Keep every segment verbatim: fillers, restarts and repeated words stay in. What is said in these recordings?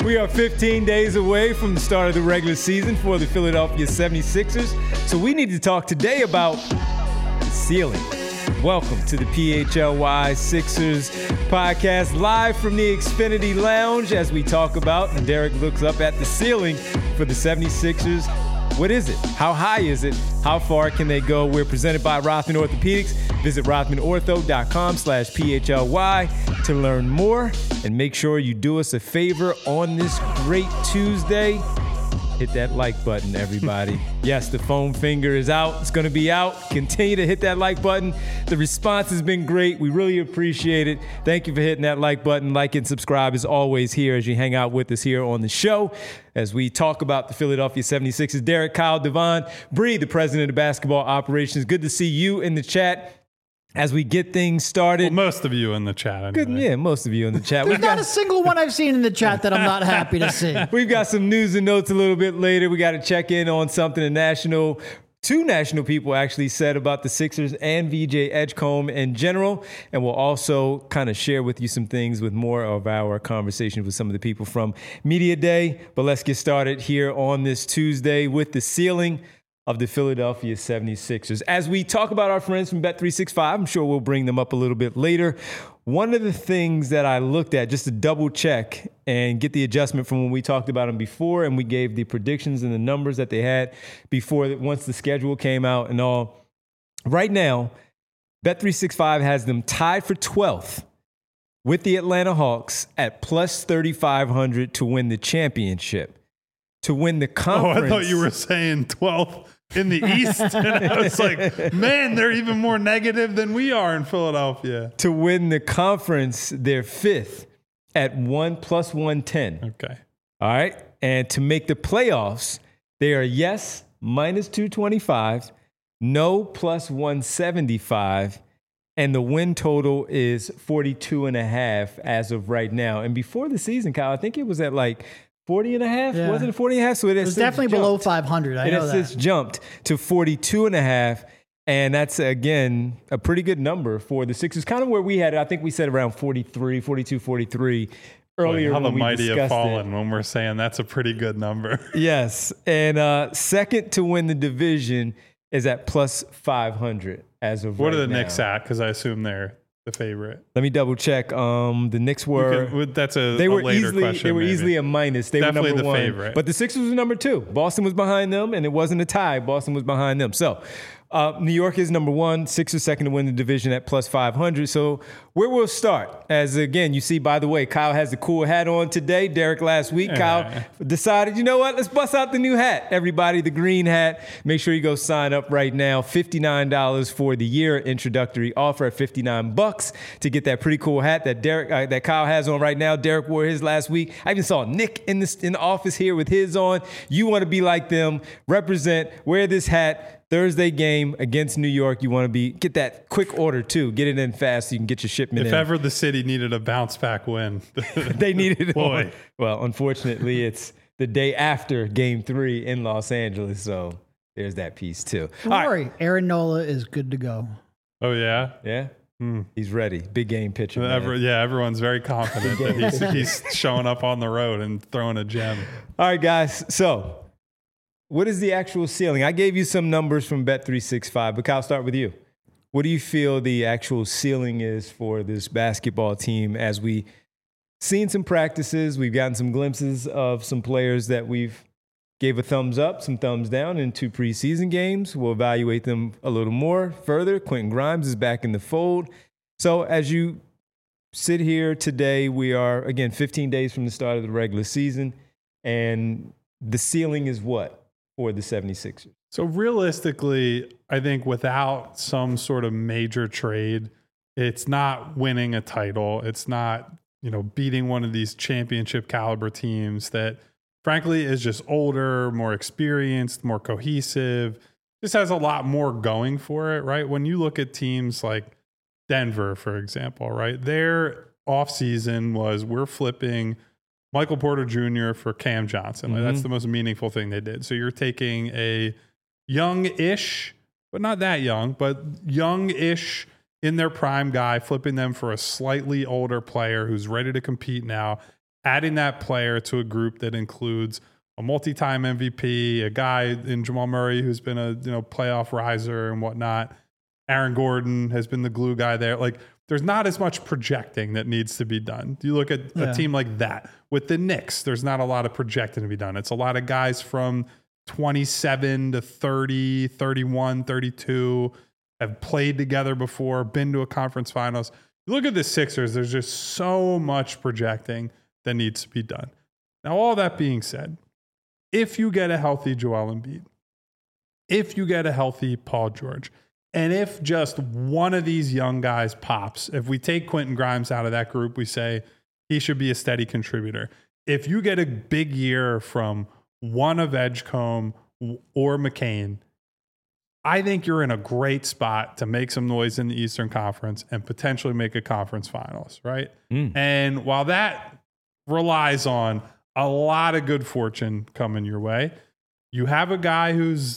We are fifteen days away from the start of the regular season for the Philadelphia seventy-sixers, so we need to talk today about the ceiling. Welcome to the P H L Y Sixers podcast, live from the Xfinity Lounge as we talk about, and Derek looks up at the ceiling for the seventy-sixers. What is it? How high is it? How far can they go? We're presented by Rothman Orthopedics. Visit rothman ortho dot com slash P H L Y to learn more. And make sure you do us a favor on this great Tuesday. Hit that like button, everybody. Yes, the foam finger is out. It's going to be out. Continue to hit that like button. The response has been great. We really appreciate it. Thank you for hitting that like button. Like and subscribe as always here as you hang out with us here on the show as we talk about the Philadelphia seventy-sixers. Derek, Kyle, Devon, Bree, the president of basketball operations. Good to see you in the chat as we get things started. Well, most of you in the chat. Anyway. Good, yeah, most of you in the chat. There's We've not got, a single one I've seen in the chat that I'm not happy to see. We've got some news and notes a little bit later. We got to check in on something a national, two national people actually said about the Sixers and V J Edgecombe in general. And we'll also kind of share with you some things with more of our conversations with some of the people from Media Day. But let's get started here on this Tuesday with the ceiling of the Philadelphia seventy-sixers. As we talk about our friends from Bet three sixty-five, I'm sure we'll bring them up a little bit later. One of the things that I looked at just to double check and get the adjustment from when we talked about them before and we gave the predictions and the numbers that they had before, once the schedule came out and all. Right now, Bet three sixty-five has them tied for twelfth with the Atlanta Hawks at plus thirty-five hundred to win the championship. To win the conference. Oh, I thought you were saying twelfth in the East. And I was like, man, they're even more negative than we are in Philadelphia. To win the conference, they're fifth at one plus one ten. Okay. All right. And to make the playoffs, they are yes, minus two twenty-five, no, plus one seventy-five. And the win total is forty-two and a half as of right now. And before the season, Kyle, I think it was at like forty and a half? Yeah. Wasn't it forty and a half? So it, it was definitely jumped. below five hundred. I it know has that. since jumped to forty-two and a half. And that's, again, a pretty good number for the Sixers. Kind of where we had it. I think we said around forty-three, forty-two, forty-three earlier. Boy, how when the we mighty have discussed fallen it. when we're saying that's a pretty good number. Yes. And uh, second to win the division is at plus five hundred as of What right are the now. Knicks at? Because I assume they're the favorite. Let me double check. Um, the Knicks were. Can, that's a, they a were later easily, question. They were maybe. easily a minus. They Definitely were number the one. favorite. But the Sixers was number two. Boston was behind them, and it wasn't a tie. Boston was behind them. So uh, New York is number one. Sixers second to win the division at plus five hundred. So where we'll start, as again, you see, by the way, Kyle has the cool hat on today. Derek last week, Yeah. Kyle decided, you know what? Let's bust out the new hat. Everybody, the green hat. Make sure you go sign up right now. fifty-nine dollars for the year introductory offer at fifty-nine bucks to get that pretty cool hat that Derek, uh, that Kyle has on right now. Derek wore his last week. I even saw Nick in the, in the office here with his on. You want to be like them. Represent. Wear this hat. Thursday game against New York. You want to be get that quick order too. Get it in fast so you can get your shipment If in. ever the city needed a bounce back win, They needed it. Boy. On. Well, unfortunately, it's the day after Game Three in Los Angeles, so there's that piece too. Don't All right. worry. Aaron Nola is good to go. Oh yeah, Yeah, Hmm. he's ready. Big game pitcher. man. Every, yeah. Everyone's very confident that he's, he's showing up on the road and throwing a gem. All right, guys. So, what is the actual ceiling? I gave you some numbers from Bet three sixty-five, but Kyle, I'll start with you. What do you feel the actual ceiling is for this basketball team as we seen some practices? We've gotten some glimpses of some players that we've gave a thumbs up, some thumbs down in two preseason games. We'll evaluate them a little more further. Quentin Grimes is back in the fold. So as you sit here today, we are, again, fifteen days from the start of the regular season, and the ceiling is what for the seventy-sixers? So realistically, I think without some sort of major trade, it's not winning a title. It's not, you know, beating one of these championship caliber teams that frankly is just older, more experienced, more cohesive. This has a lot more going for it, right? When you look at teams like Denver, for example, right? Their offseason was we're flipping Michael Porter Junior for Cam Johnson. Like, Mm-hmm. that's the most meaningful thing they did. So you're taking a young-ish, but not that young, but young-ish in their prime guy, flipping them for a slightly older player who's ready to compete now. adding that player to a group that includes a multi-time M V P, a guy in Jamal Murray who's been a you know playoff riser and whatnot. Aaron Gordon has been the glue guy there. Like, there's not as much projecting that needs to be done. You look at Yeah. a team like that. With the Knicks, there's not a lot of projecting to be done. It's a lot of guys from twenty-seven to thirty, thirty-one, thirty-two, have played together before, been to a conference finals. You look at the Sixers, there's just so much projecting that needs to be done. Now, all that being said, if you get a healthy Joel Embiid, if you get a healthy Paul George, and if just one of these young guys pops, if we take Quentin Grimes out of that group, we say he should be a steady contributor. If you get a big year from one of Edgecombe or McCain, I think you're in a great spot to make some noise in the Eastern Conference and potentially make a conference finals, right? Mm. And while that relies on a lot of good fortune coming your way, you have a guy who's,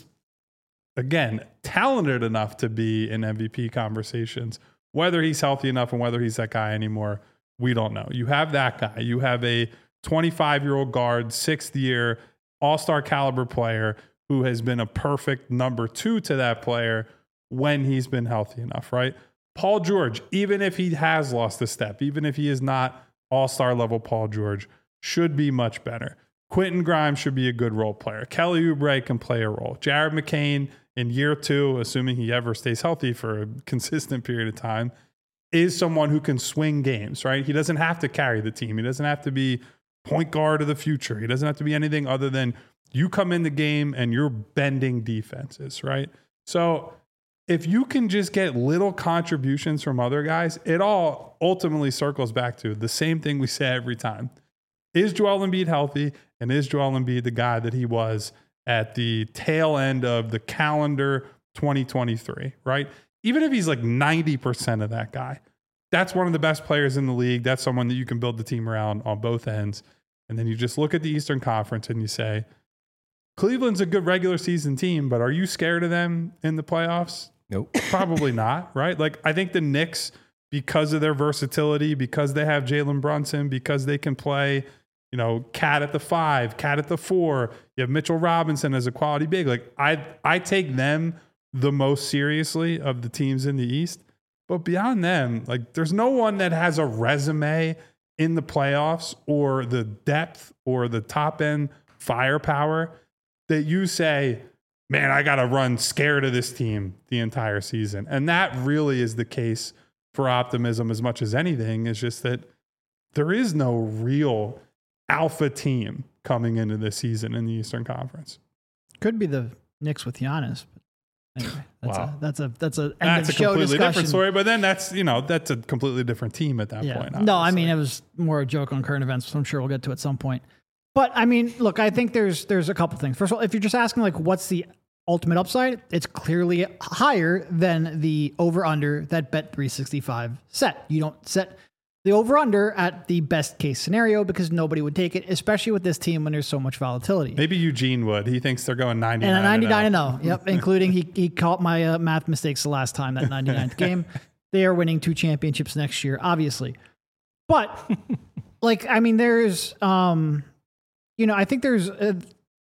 again, talented enough to be in M V P conversations. Whether he's healthy enough and whether he's that guy anymore, we don't know. You have that guy. You have a twenty-five-year-old guard, sixth year, all-star caliber player who has been a perfect number two to that player when he's been healthy enough, right? Paul George, even if he has lost a step, even if he is not all-star level Paul George, should be much better. Quentin Grimes should be a good role player. Kelly Oubre can play a role. Jared McCain in year two, assuming he ever stays healthy for a consistent period of time, is someone who can swing games, right? He doesn't have to carry the team. He doesn't have to be point guard of the future. He doesn't have to be anything other than you come in the game and you're bending defenses, right? So if you can just get little contributions from other guys, it all ultimately circles back to the same thing we say every time. Is Joel Embiid healthy? And is Joel Embiid the guy that he was at the tail end of the calendar twenty twenty-three, right? Even if he's like ninety percent of that guy, that's one of the best players in the league. That's someone that you can build the team around on both ends. And then you just look at the Eastern Conference and you say, Cleveland's a good regular season team, but are you scared of them in the playoffs? Nope. Probably not, right? Like, I think the Knicks, because of their versatility, because they have Jalen Brunson, because they can play, you know, Cat at the five, Cat at the four, you have Mitchell Robinson as a quality big. Like, I, I take them the most seriously of the teams in the East. But beyond them, like, there's no one that has a resume in the playoffs or the depth or the top end firepower that you say, man, I got to run scared of this team the entire season. And that really is the case for optimism as much as anything. Is just that there is no real alpha team coming into this season in the Eastern Conference. Could be the Knicks with Giannis. But anyway, that's Wow. a that's a that's a end That's of a show completely discussion. different story, but then that's, you know, that's a completely different team at that Yeah. point. No, I obviously. mean, it was more a joke on current events, which I'm sure we'll get to at some point. But I mean, look, I think there's there's a couple things. First of all, if you're just asking like what's the ultimate upside, it's clearly higher than the over-under that Bet three sixty-five set. You don't set the over-under at the best case scenario because nobody would take it, especially with this team when there's so much volatility. Maybe Eugene would. He thinks they're going ninety-nine And a ninety-nine and and oh. Yep, including he he caught my uh, math mistakes the last time, that ninety-ninth game. They are winning two championships next year, obviously. But, like, I mean, there's, um, you know, I think there's, a,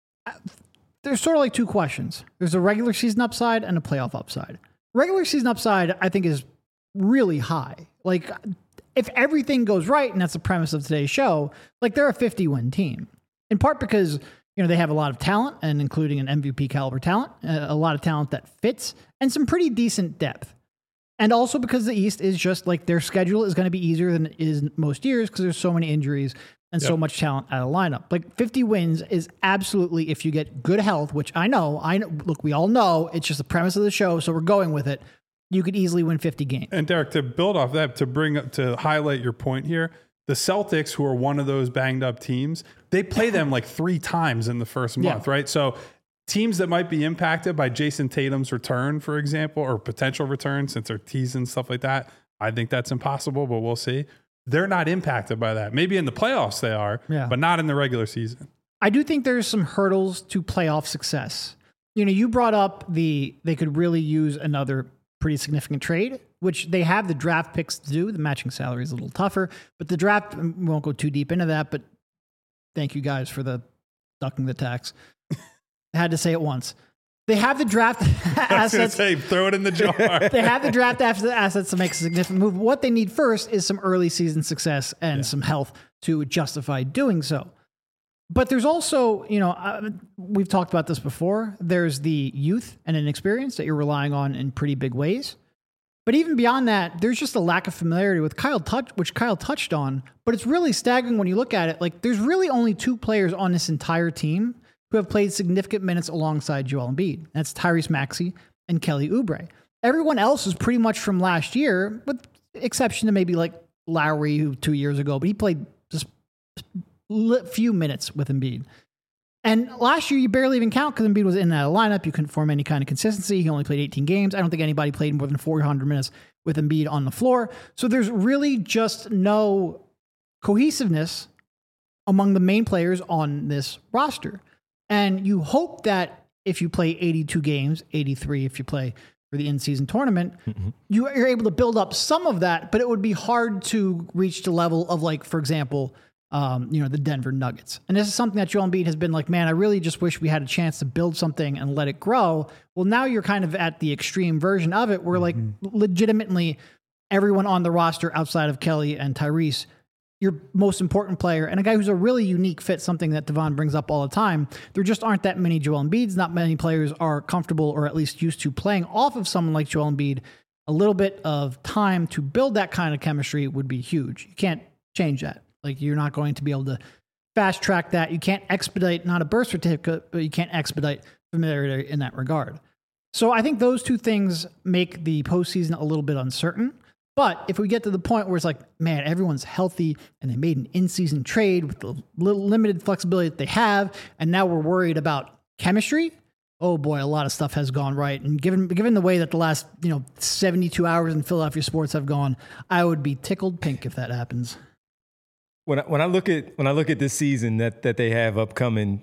there's sort of like two questions. There's a regular season upside and a playoff upside. Regular season upside, I think, is really high. Like, if everything goes right, and that's the premise of today's show, like, they're a fifty-win team. In part because, you know, they have a lot of talent, and including an M V P caliber talent, a lot of talent that fits, and some pretty decent depth. And also because the East is just like their schedule is going to be easier than it is most years because there's so many injuries and yep. so much talent at a lineup. Like fifty wins is absolutely, if you get good health, which I know, I know, look, we all know it's just the premise of the show, so we're going with it. You could easily win fifty games. And Derek, to build off that, to bring up, to highlight your point here, the Celtics, who are one of those banged up teams, they play them like three times in the first month, yeah. right? So teams that might be impacted by Jason Tatum's return, for example, or potential return, since they're teasing stuff like that, I think that's impossible, but we'll see. They're not impacted by that. Maybe in the playoffs they are, yeah. but not in the regular season. I do think there's some hurdles to playoff success. You know, you brought up the, they could really use another pretty significant trade, which they have the draft picks to do. The matching salary is a little tougher, but the draft, we won't go too deep into that, but Thank you guys for the ducking the tax. I had to say it once. They have the draft assets. Say, throw it in the jar. They have the draft assets to make a significant move. What they need first is some early season success and yeah. some health to justify doing so. But there's also, you know, uh, we've talked about this before. There's the youth and inexperience that you're relying on in pretty big ways. But even beyond that, there's just a lack of familiarity with Kyle touch, which Kyle touched on. But it's really staggering when you look at it. Like, there's really only two players on this entire team who have played significant minutes alongside Joel Embiid. That's Tyrese Maxey and Kelly Oubre. Everyone else is pretty much from last year, with exception to maybe like Lowry, who two years ago, but he played just a few minutes with Embiid. And last year, you barely even count because Embiid was in and out of the lineup. You couldn't form any kind of consistency. He only played eighteen games. I don't think anybody played more than four hundred minutes with Embiid on the floor. So there's really just no cohesiveness among the main players on this roster. And you hope that if you play eighty-two games, eighty-three if you play for the in-season tournament, mm-hmm. you are able to build up some of that, but it would be hard to reach the level of, like, for example, um, you know, the Denver Nuggets. And this is something that Joel Embiid has been like, man, I really just wish we had a chance to build something and let it grow. Well, now you're kind of at the extreme version of it where, like, mm-hmm. legitimately everyone on the roster outside of Kelly and Tyrese, your most important player, and a guy who's a really unique fit, something that Devon brings up all the time. There just aren't that many Joel Embiids. Not many players are comfortable or at least used to playing off of someone like Joel Embiid. A little bit of time to build that kind of chemistry would be huge. You can't change that. Like, you're not going to be able to fast track that. You can't expedite, not a birth certificate, but you can't expedite familiarity in that regard. So I think those two things make the postseason a little bit uncertain. But if we get to the point where it's like, man, everyone's healthy and they made an in-season trade with the little limited flexibility that they have, and now we're worried about chemistry, oh boy, a lot of stuff has gone right. And given given the way that the last, you know, seventy-two hours in Philadelphia sports have gone, I would be tickled pink if that happens. When I, when I look at when I look at this season that that they have upcoming,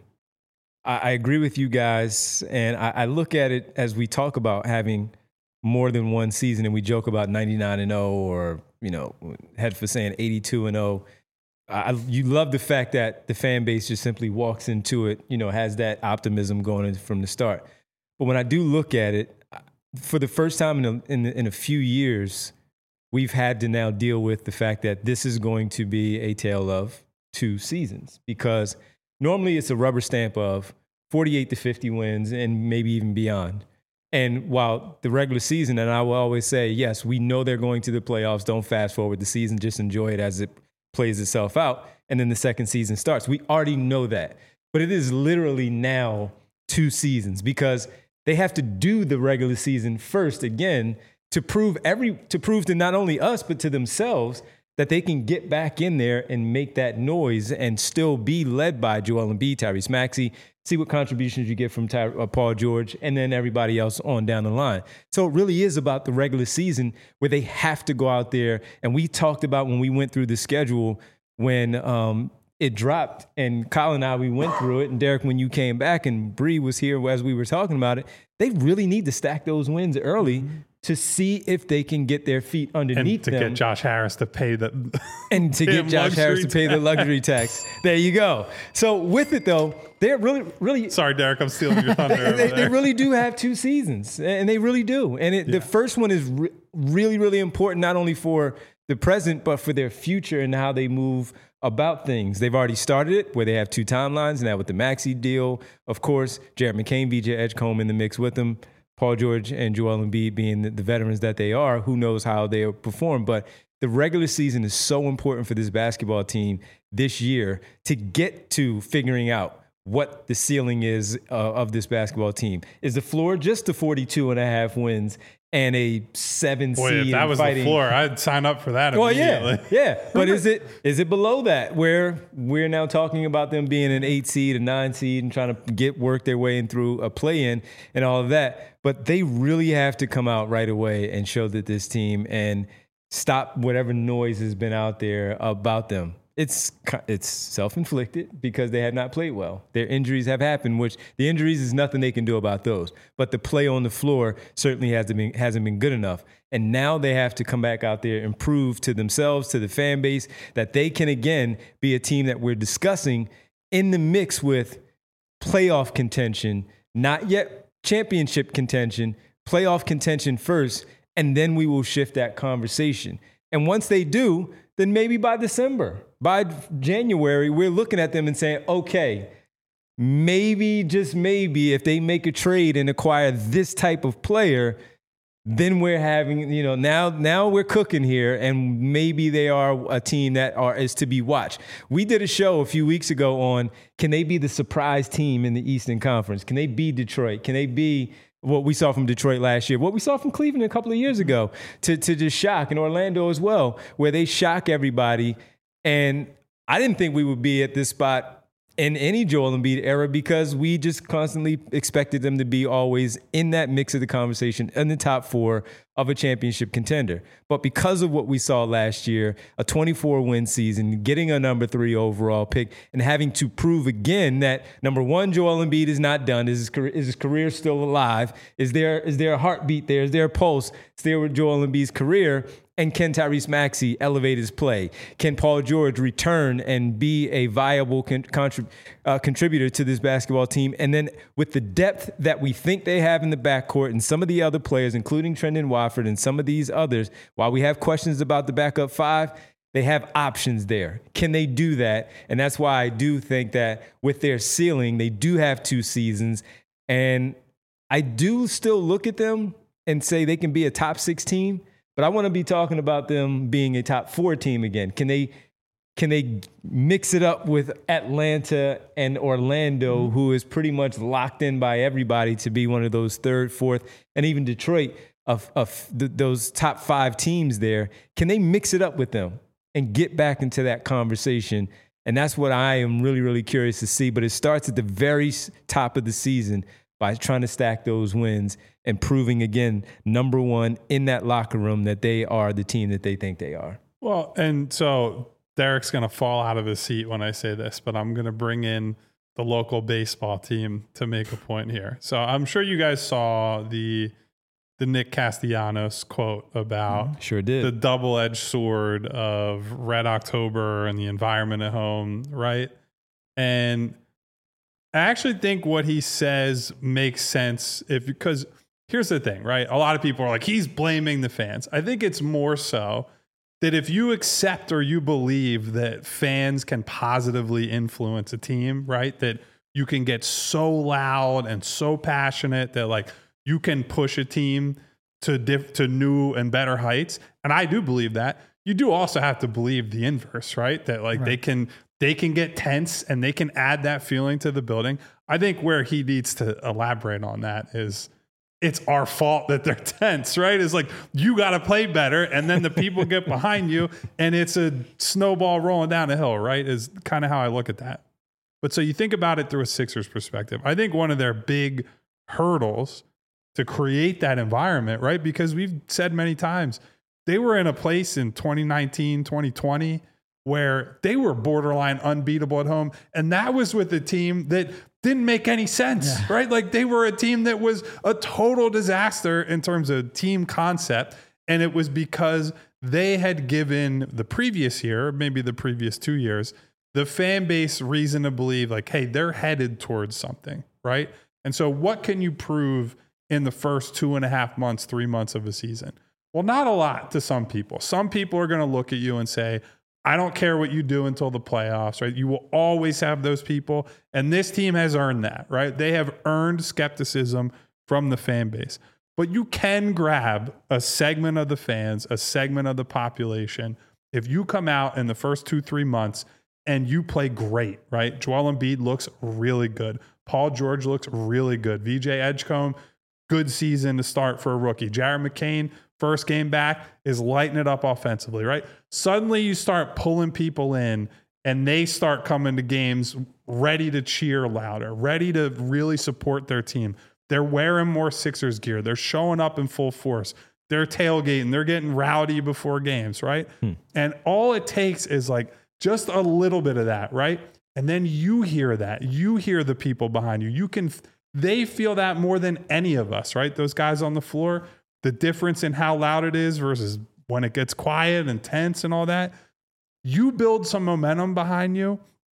I, I agree with you guys, and I, I look at it as we talk about having more than one season, and we joke about ninety-nine and oh, or, you know, head for saying eighty-two and oh. I, you love the fact that the fan base just simply walks into it, you know, has that optimism going in from the start. But when I do look at it, for the first time in a, in, in a few years, we've had to now deal with the fact that this is going to be a tale of two seasons, because normally it's a rubber stamp of forty-eight to fifty wins and maybe even beyond. And while the regular season, and I will always say, yes, we know they're going to the playoffs. Don't fast forward the season. Just enjoy it as it plays itself out. And then the second season starts. We already know that. But it is literally now two seasons, because they have to do the regular season first again to prove every to prove to not only us, but to themselves that they can get back in there and make that noise and still be led by Joel Embiid, Tyrese Maxey, see what contributions you get from Ty, uh, Paul George, and then everybody else on down the line. So it really is about the regular season where they have to go out there. And we talked about when we went through the schedule, when um, it dropped, and Kyle and I, we went through it. And Derek, when you came back and Bree was here as we were talking about it, they really need to stack those wins early mm-hmm. to see if they can get their feet underneath and to them. get Josh Harris to pay the and to get Josh Harris to pay the luxury tax. There you go. So with it though, they're really, really. Sorry, Derek, I'm stealing your thunder. they, they, they really do have two seasons, and they really do. And it, yeah. the first one is re- really, really important, not only for the present, but for their future and how they move about things. They've already started it where they have two timelines now with the Maxey deal. Of course, Jared McCain, V J Edgecombe in the mix with them. Paul George and Joel Embiid being the, the veterans that they are, who knows how they'll perform. But the regular season is so important for this basketball team this year to get to figuring out what the ceiling is uh, of this basketball team. Is the floor just the forty-two and a half wins and a seven Boy, seed? If that was fighting? the floor, I'd sign up for that Well, immediately. yeah, yeah. But is it is it below that, where we're now talking about them being an eight seed, a nine seed, and trying to get work their way in through a play-in and all of that? But they really have to come out right away and show that this team and stop whatever noise has been out there about them. It's it's self-inflicted because they have not played well. Their injuries have happened, which the injuries is nothing they can do about those. But the play on the floor certainly hasn't been, hasn't been good enough. And now they have to come back out there and prove to themselves, to the fan base, that they can, again, be a team that we're discussing in the mix with playoff contention, not yet championship contention, playoff contention first, and then we will shift that conversation. And once they do, then maybe by December, by January, we're looking at them and saying, okay, maybe, just maybe, if they make a trade and acquire this type of player, then we're having, you know, now now we're cooking here, and maybe they are a team that are is to be watched. We did a show a few weeks ago on, can they be the surprise team in the Eastern Conference? Can they be Detroit? Can they be what we saw from Detroit last year, what we saw from Cleveland a couple of years ago, to, to just shock, and Orlando as well, where they shock everybody. And I didn't think we would be at this spot in any Joel Embiid era, because we just constantly expected them to be always in that mix of the conversation in the top four of a championship contender. But because of what we saw last year, a twenty-four win season, getting a number three overall pick, and having to prove again that, number one, Joel Embiid is not done. Is his career, is his career still alive? Is there is there a heartbeat there? Is there a pulse still with Joel Embiid's career? And can Tyrese Maxey elevate his play? Can Paul George return and be a viable con- contrib- uh, contributor to this basketball team? And then with the depth that we think they have in the backcourt and some of the other players, including Trendon Watford and some of these others, while we have questions about the backup five, they have options there. Can they do that? And that's why I do think that with their ceiling, they do have two seasons. And I do still look at them and say they can be a top six team. But I want to be talking about them being a top four team again. Can they can they mix it up with Atlanta and Orlando, mm-hmm. who is pretty much locked in by everybody to be one of those third, fourth, and even Detroit of, of the, those top five teams there? Can they mix it up with them and get back into that conversation? And that's what I am really, really curious to see. But it starts at the very top of the season by trying to stack those wins and proving, again, number one in that locker room, that they are the team that they think they are. Well, and so Derek's going to fall out of his seat when I say this, but I'm going to bring in the local baseball team to make a point here. So I'm sure you guys saw the the Nick Castellanos quote about sure did. the double-edged sword of Red October and the environment at home, right? And I actually think what he says makes sense, if because here's the thing, right? A lot of people are like, he's blaming the fans. I think it's more so that if you accept or you believe that fans can positively influence a team, right? That you can get so loud and so passionate that like you can push a team to diff- to new and better heights. And I do believe that. You do also have to believe the inverse, right? That like right. they can they can get tense and they can add that feeling to the building. I think where he needs to elaborate on that is it's our fault that they're tense, right? It's like, you got to play better. And then the people get behind you and it's a snowball rolling down the hill, right? Is kind of how I look at that. But so you think about it through a Sixers perspective. I think one of their big hurdles to create that environment, right? Because we've said many times, they were in a place in twenty nineteen, twenty twenty where they were borderline unbeatable at home. And that was with a team that didn't make any sense, yeah. right? Like they were a team that was a total disaster in terms of team concept. And it was because they had given the previous year, maybe the previous two years, the fan base reason to believe like, hey, they're headed towards something, right? And so what can you prove in the first two and a half months, three months of a season? Well, not a lot to some people. Some people are going to look at you and say, I don't care what you do until the playoffs, right? You will always have those people. And this team has earned that, right? They have earned skepticism from the fan base. But you can grab a segment of the fans, a segment of the population. If you come out in the first two, three months and you play great, right? Joel Embiid looks really good. Paul George looks really good. V J Edgecombe, good season to start for a rookie. Jared McCain, first game back, is lighting it up offensively, right? Suddenly you start pulling people in and they start coming to games ready to cheer louder, ready to really support their team. They're wearing more Sixers gear. They're showing up in full force. They're tailgating. They're getting rowdy before games, right? Hmm. And all it takes is like just a little bit of that, right? And then you hear that. You hear the people behind you. You can, they feel that more than any of us, right? Those guys on the floor, the difference in how loud it is versus when it gets quiet and tense and all that. You build some momentum behind you.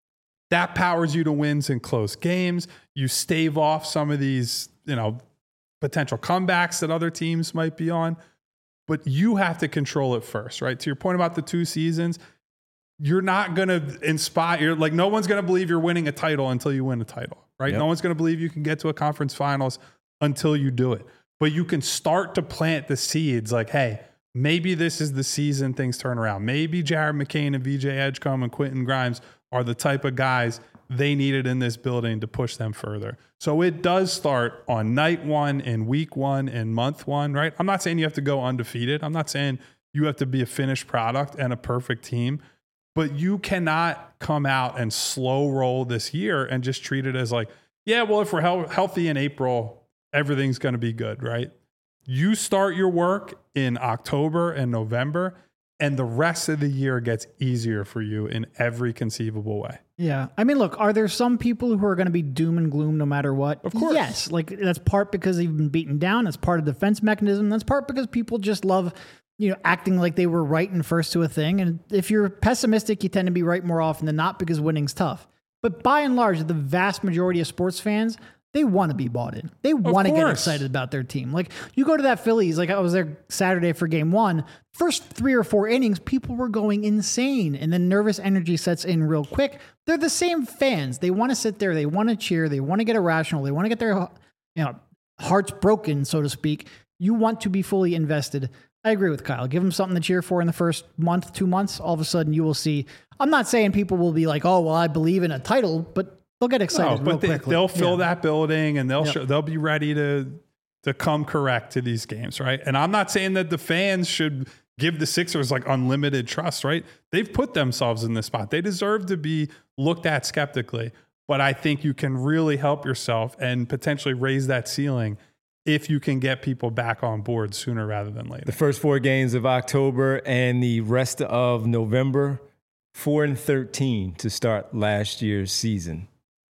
That powers you to wins in close games. You stave off some of these, you know, potential comebacks that other teams might be on. But you have to control it first, right? To your point about the two seasons, you're not going to inspire, like no one's going to believe you're winning a title until you win a title, right? Yep. No one's going to believe you can get to a conference finals until you do it. But you can start to plant the seeds like, hey, maybe this is the season things turn around. Maybe Jared McCain and V J Edgecombe and Quentin Grimes are the type of guys they needed in this building to push them further. So it does start on night one and week one and month one, right? I'm not saying you have to go undefeated. I'm not saying you have to be a finished product and a perfect team, but you cannot come out and slow roll this year and just treat it as like, yeah, well, if we're he- healthy in April, everything's going to be good, right? You start your work in October and November, and the rest of the year gets easier for you in every conceivable way. Yeah. I mean, look, are there some people who are going to be doom and gloom no matter what? Of course. Yes. Like that's part because they've been beaten down. That's part of the defense mechanism. That's part because people just love, you know, acting like they were right and first to a thing. And if you're pessimistic, you tend to be right more often than not because winning's tough. But by and large, the vast majority of sports fans, they want to be bought in. They want to get excited about their team. Like you go to that Phillies, like I was there Saturday for game one, first three or four innings, people were going insane. And then nervous energy sets in real quick. They're the same fans. They want to sit there. They want to cheer. They want to get irrational. They want to get their, you know, hearts broken, so to speak. You want to be fully invested. I agree with Kyle. Give them something to cheer for in the first month, two months. All of a sudden you will see, I'm not saying people will be like, oh, well, I believe in a title, but they'll get excited. No, but they, quickly. they'll fill yeah. that building and they'll yep. show, they'll be ready to to come correct to these games, right? And I'm not saying that the fans should give the Sixers like unlimited trust, right? They've put themselves in this spot. They deserve to be looked at skeptically. But I think you can really help yourself and potentially raise that ceiling if you can get people back on board sooner rather than later. The first four games of October and the rest of November, four and thirteen to start last year's season.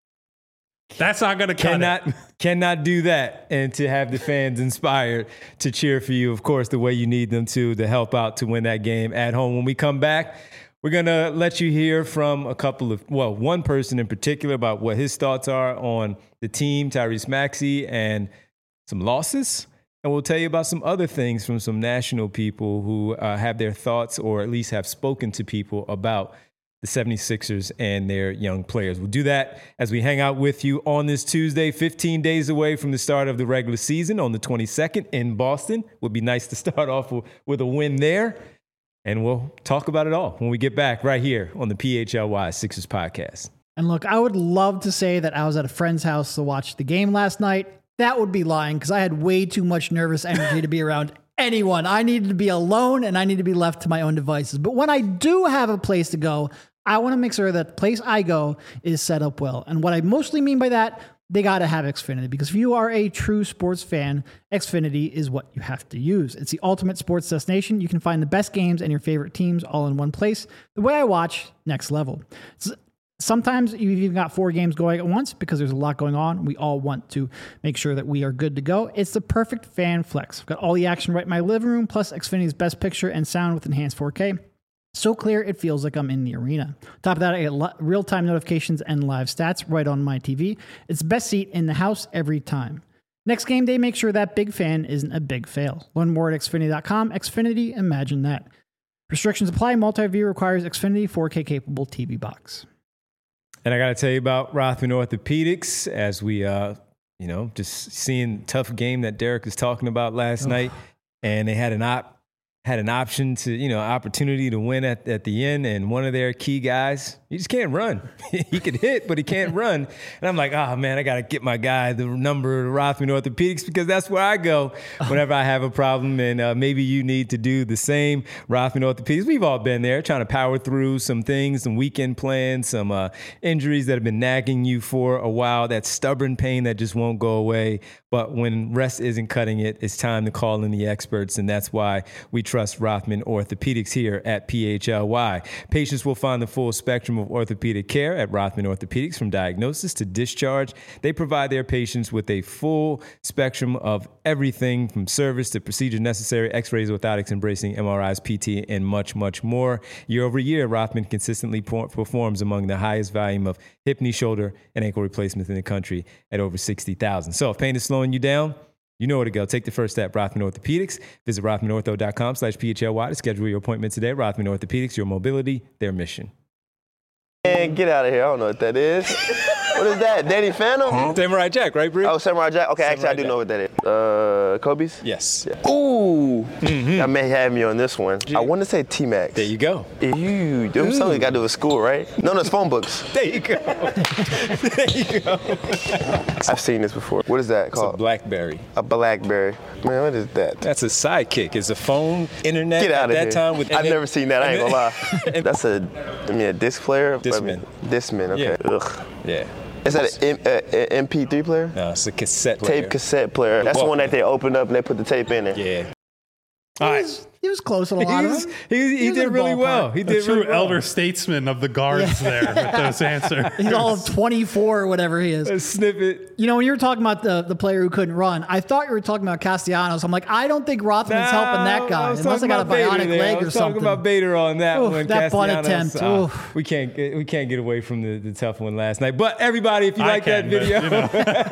That's not going to cut cannot, it. Cannot do that and to have the fans inspired to cheer for you, of course, the way you need them to, to help out to win that game at home. When we come back, we're going to let you hear from a couple of, well, one person in particular about what his thoughts are on the team, Tyrese Maxey, and some losses. And we'll tell you about some other things from some national people who uh, have their thoughts or at least have spoken to people about the seventy-sixers and their young players. We'll do that as we hang out with you on this Tuesday, fifteen days away from the start of the regular season on the twenty-second in Boston. Would be nice to start off with a win there. And we'll talk about it all when we get back right here on the P H L Y Sixers podcast. And look, I would love to say that I was at a friend's house to watch the game last night. That would be lying because I had way too much nervous energy to be around anyone. I needed to be alone and I need to be left to my own devices. But when I do have a place to go, I want to make sure that the place I go is set up well. And what I mostly mean by that, they got to have Xfinity, because if you are a true sports fan, Xfinity is what you have to use. It's the ultimate sports destination. You can find the best games and your favorite teams all in one place. The way I watch, next level. It's, sometimes you've even got four games going at once because there's a lot going on. We all want to make sure that we are good to go. It's the perfect fan flex. I've got all the action right in my living room, plus Xfinity's best picture and sound with enhanced four K. So clear, it feels like I'm in the arena. Top of that, I get real-time notifications and live stats right on my T V. It's the best seat in the house every time. Next game day, make sure that big fan isn't a big fail. Learn more at Xfinity dot com. Xfinity, imagine that. Restrictions apply. Multi-view requires Xfinity four K capable T V box. And I got to tell you about Rothman Orthopedics as we, uh, you know, just seeing tough game that Derek was talking about last oh. night. And they had an op. had an option to, you know, opportunity to win at, at the end. And one of their key guys, he just can't run. He can hit, but he can't run. And I'm like, oh, man, I got to get my guy the number of Rothman Orthopedics because that's where I go whenever I have a problem. And uh, maybe you need to do the same. Rothman Orthopedics, we've all been there trying to power through some things, some weekend plans, some uh, injuries that have been nagging you for a while, that stubborn pain that just won't go away. But when rest isn't cutting it, it's time to call in the experts. And that's why we trust Rothman Orthopedics here at P H L Y. Patients will find the full spectrum of orthopedic care at Rothman Orthopedics. From diagnosis to discharge, they provide their patients with a full spectrum of everything from service to procedures necessary, x-rays, orthotics, embracing M R Is, P T, and much, much more. Year over year, Rothman consistently performs among the highest volume of hip, knee, shoulder, and ankle replacements in the country at over sixty thousand. So if pain is slowing you down, you know where to go. Take the first step. Rothman Orthopedics. Visit rothmanortho.com slash PHLY to schedule your appointment today. Rothman Orthopedics, your mobility, their mission. Man, get out of here. I don't know what that is. What is that? Danny Phantom? Huh? Samurai Jack, right, Bree? Oh, Samurai Jack. Okay, Samurai actually, I do Jack. know what that is. Uh, Kobe's? Yes. Yeah. Ooh. Mm-hmm. I may have me on this one. I want to say T-Max. There you go. Ew. Them something got to do with school, right? No, no, it's phone books. There you go. There you go. I've seen this before. What is that It's called? a BlackBerry. A BlackBerry. Man, what is that? That's a sidekick. It's a phone, internet Get out at of that here. time. With I've never seen that. I ain't gonna lie. and- That's a, I mean, a disc player? Discman. Discman, okay. Yeah. Ugh. Yeah. Is that an M P three player? No, it's a cassette player. Tape cassette player. That's the one that they opened up and they put the tape in it. Yeah. He was, he was close at a lot He, of was, them. he, he, He was in did the really ballpark. well. He A did true really well. elder statesman of the guards there with those answers. He's all of twenty-four or whatever he is. A snippet. You know, when you were talking about the, the player who couldn't run, I thought you were talking about Castellanos. I'm like, I don't think Rothman's helping that guy. I was Unless I talking got a about Bader bionic there. leg I or was something. talking about Bader on that Oof, one. that butt Castellanos, attempt. uh, Oof. we can't get, we can't get away from the, the tough one last night. But everybody, if you I like can, that but, video, you know.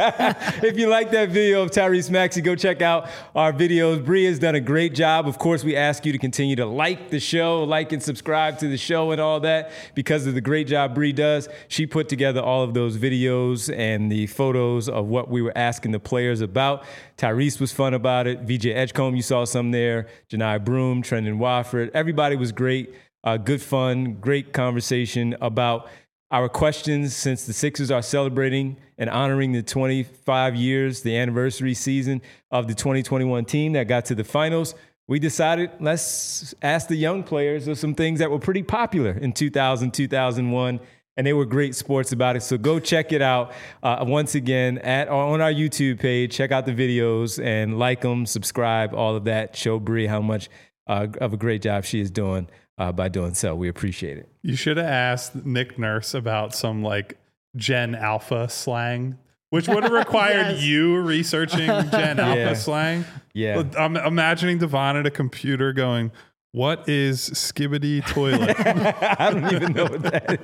if you like that video of Tyrese Maxey, go check out our videos. Bree has done a great job. Of course, we ask you to continue to like the show, like and subscribe to the show and all that because of the great job Bree does. She put together all of those videos and the photos of what we were asking the players about. Tyrese was fun about it. V J Edgecombe, you saw some there. Janai Broom, Trendon Wofford. Everybody was great. Uh, good fun, great conversation about our questions since the Sixers are celebrating and honoring the twenty-five years, the anniversary season of the twenty twenty-one team that got to the finals. We decided let's ask the young players of some things that were pretty popular in two thousand, two thousand one, and they were great sports about it. So go check it out uh, once again at on our YouTube page. Check out the videos and like them, subscribe, all of that. Show Bree how much uh, of a great job she is doing uh, by doing so. We appreciate it. You should have asked Nick Nurse about some like Gen Alpha slang, which would have required Yes. you researching Gen Alpha Yeah. slang. Yeah. I'm imagining Devon at a computer going, "What is skibbity toilet?" I don't even know what that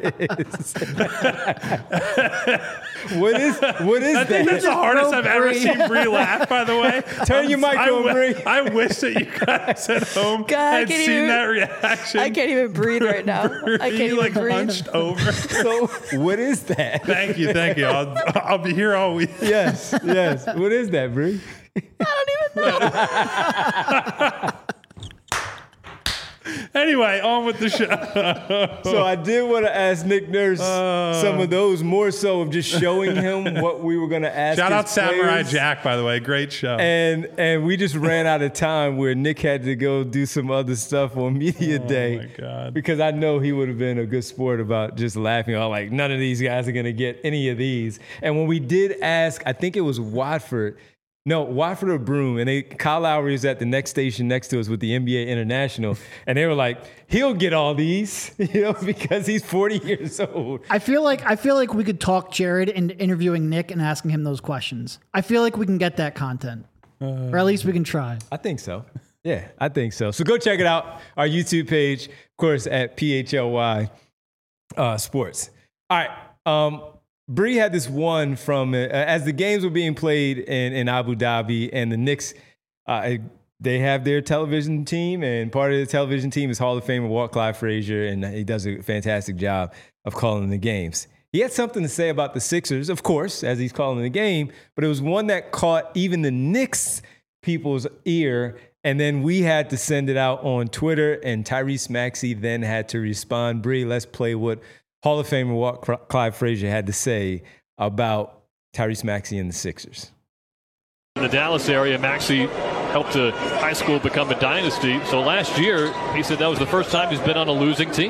is. what is what is I that? think that's the hardest I've ever Bree. seen Bree laugh, by the way. Turn your mic I on, wi- Bree. I wish that you guys at home God, I had can't seen even- that reaction. I can't even breathe right now. I Bree, can't even like breathe. hunched over. So what is that? Thank you, thank you. I'll, I'll be here all week. Yes, yes. What is that, Bree? Anyway, on with the show. So I did want to ask Nick Nurse Uh. some of those, more so of just showing him what we were going to ask. Shout his out Samurai players. Jack, by the way. Great show. And and we just ran out of time where Nick had to go do some other stuff on media Oh, day. my God. Because I know he would have been a good sport about just laughing. All like, none of these guys are going to get any of these. And when we did ask, I think it was Watford. No, Watford or Broom, and they Kyle Lowry is at the next station next to us with the N B A International, and they were like, "He'll get all these," you know, because he's forty years old. I feel like I feel like we could talk Jared into interviewing Nick and asking him those questions. I feel like we can get that content, or at least we can try. I think so. Yeah, I think so. So go check it out. Our YouTube page, of course, at P H L Y uh, Sports. All right. Um, Bree had this one from uh, as the games were being played in, in Abu Dhabi, and the Knicks, uh, they have their television team, and part of the television team is Hall of Famer Walt Clyde Frazier, and he does a fantastic job of calling the games. He had something to say about the Sixers, of course, as he's calling the game, but it was one that caught even the Knicks people's ear, and then we had to send it out on Twitter, and Tyrese Maxey then had to respond. Bree, let's play what Hall of Famer Walt Clyde Frazier had to say about Tyrese Maxey and the Sixers. In the Dallas area, Maxey helped a high school become a dynasty. So last year, he said that was the first time he's been on a losing team.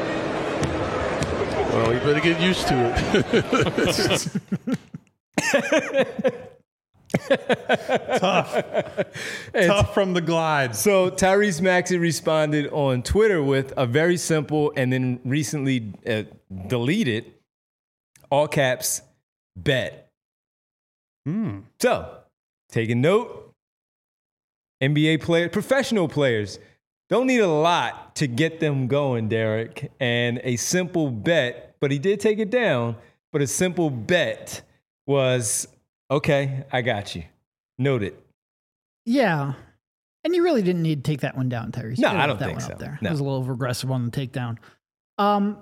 Well, you better get used to it. Tough. Tough from the glide. So Tyrese Maxey responded on Twitter with a very simple and then recently uh, deleted, all caps, bet. Hmm. So, taking note, N B A players, professional players, don't need a lot to get them going, Derek. And a simple bet, but he did take it down, but a simple bet was, okay, I got you. Noted. Yeah. And you really didn't need to take that one down, Tyrese. No, You I left don't that think one so. Up there. No. It was a little regressive on the takedown. Um,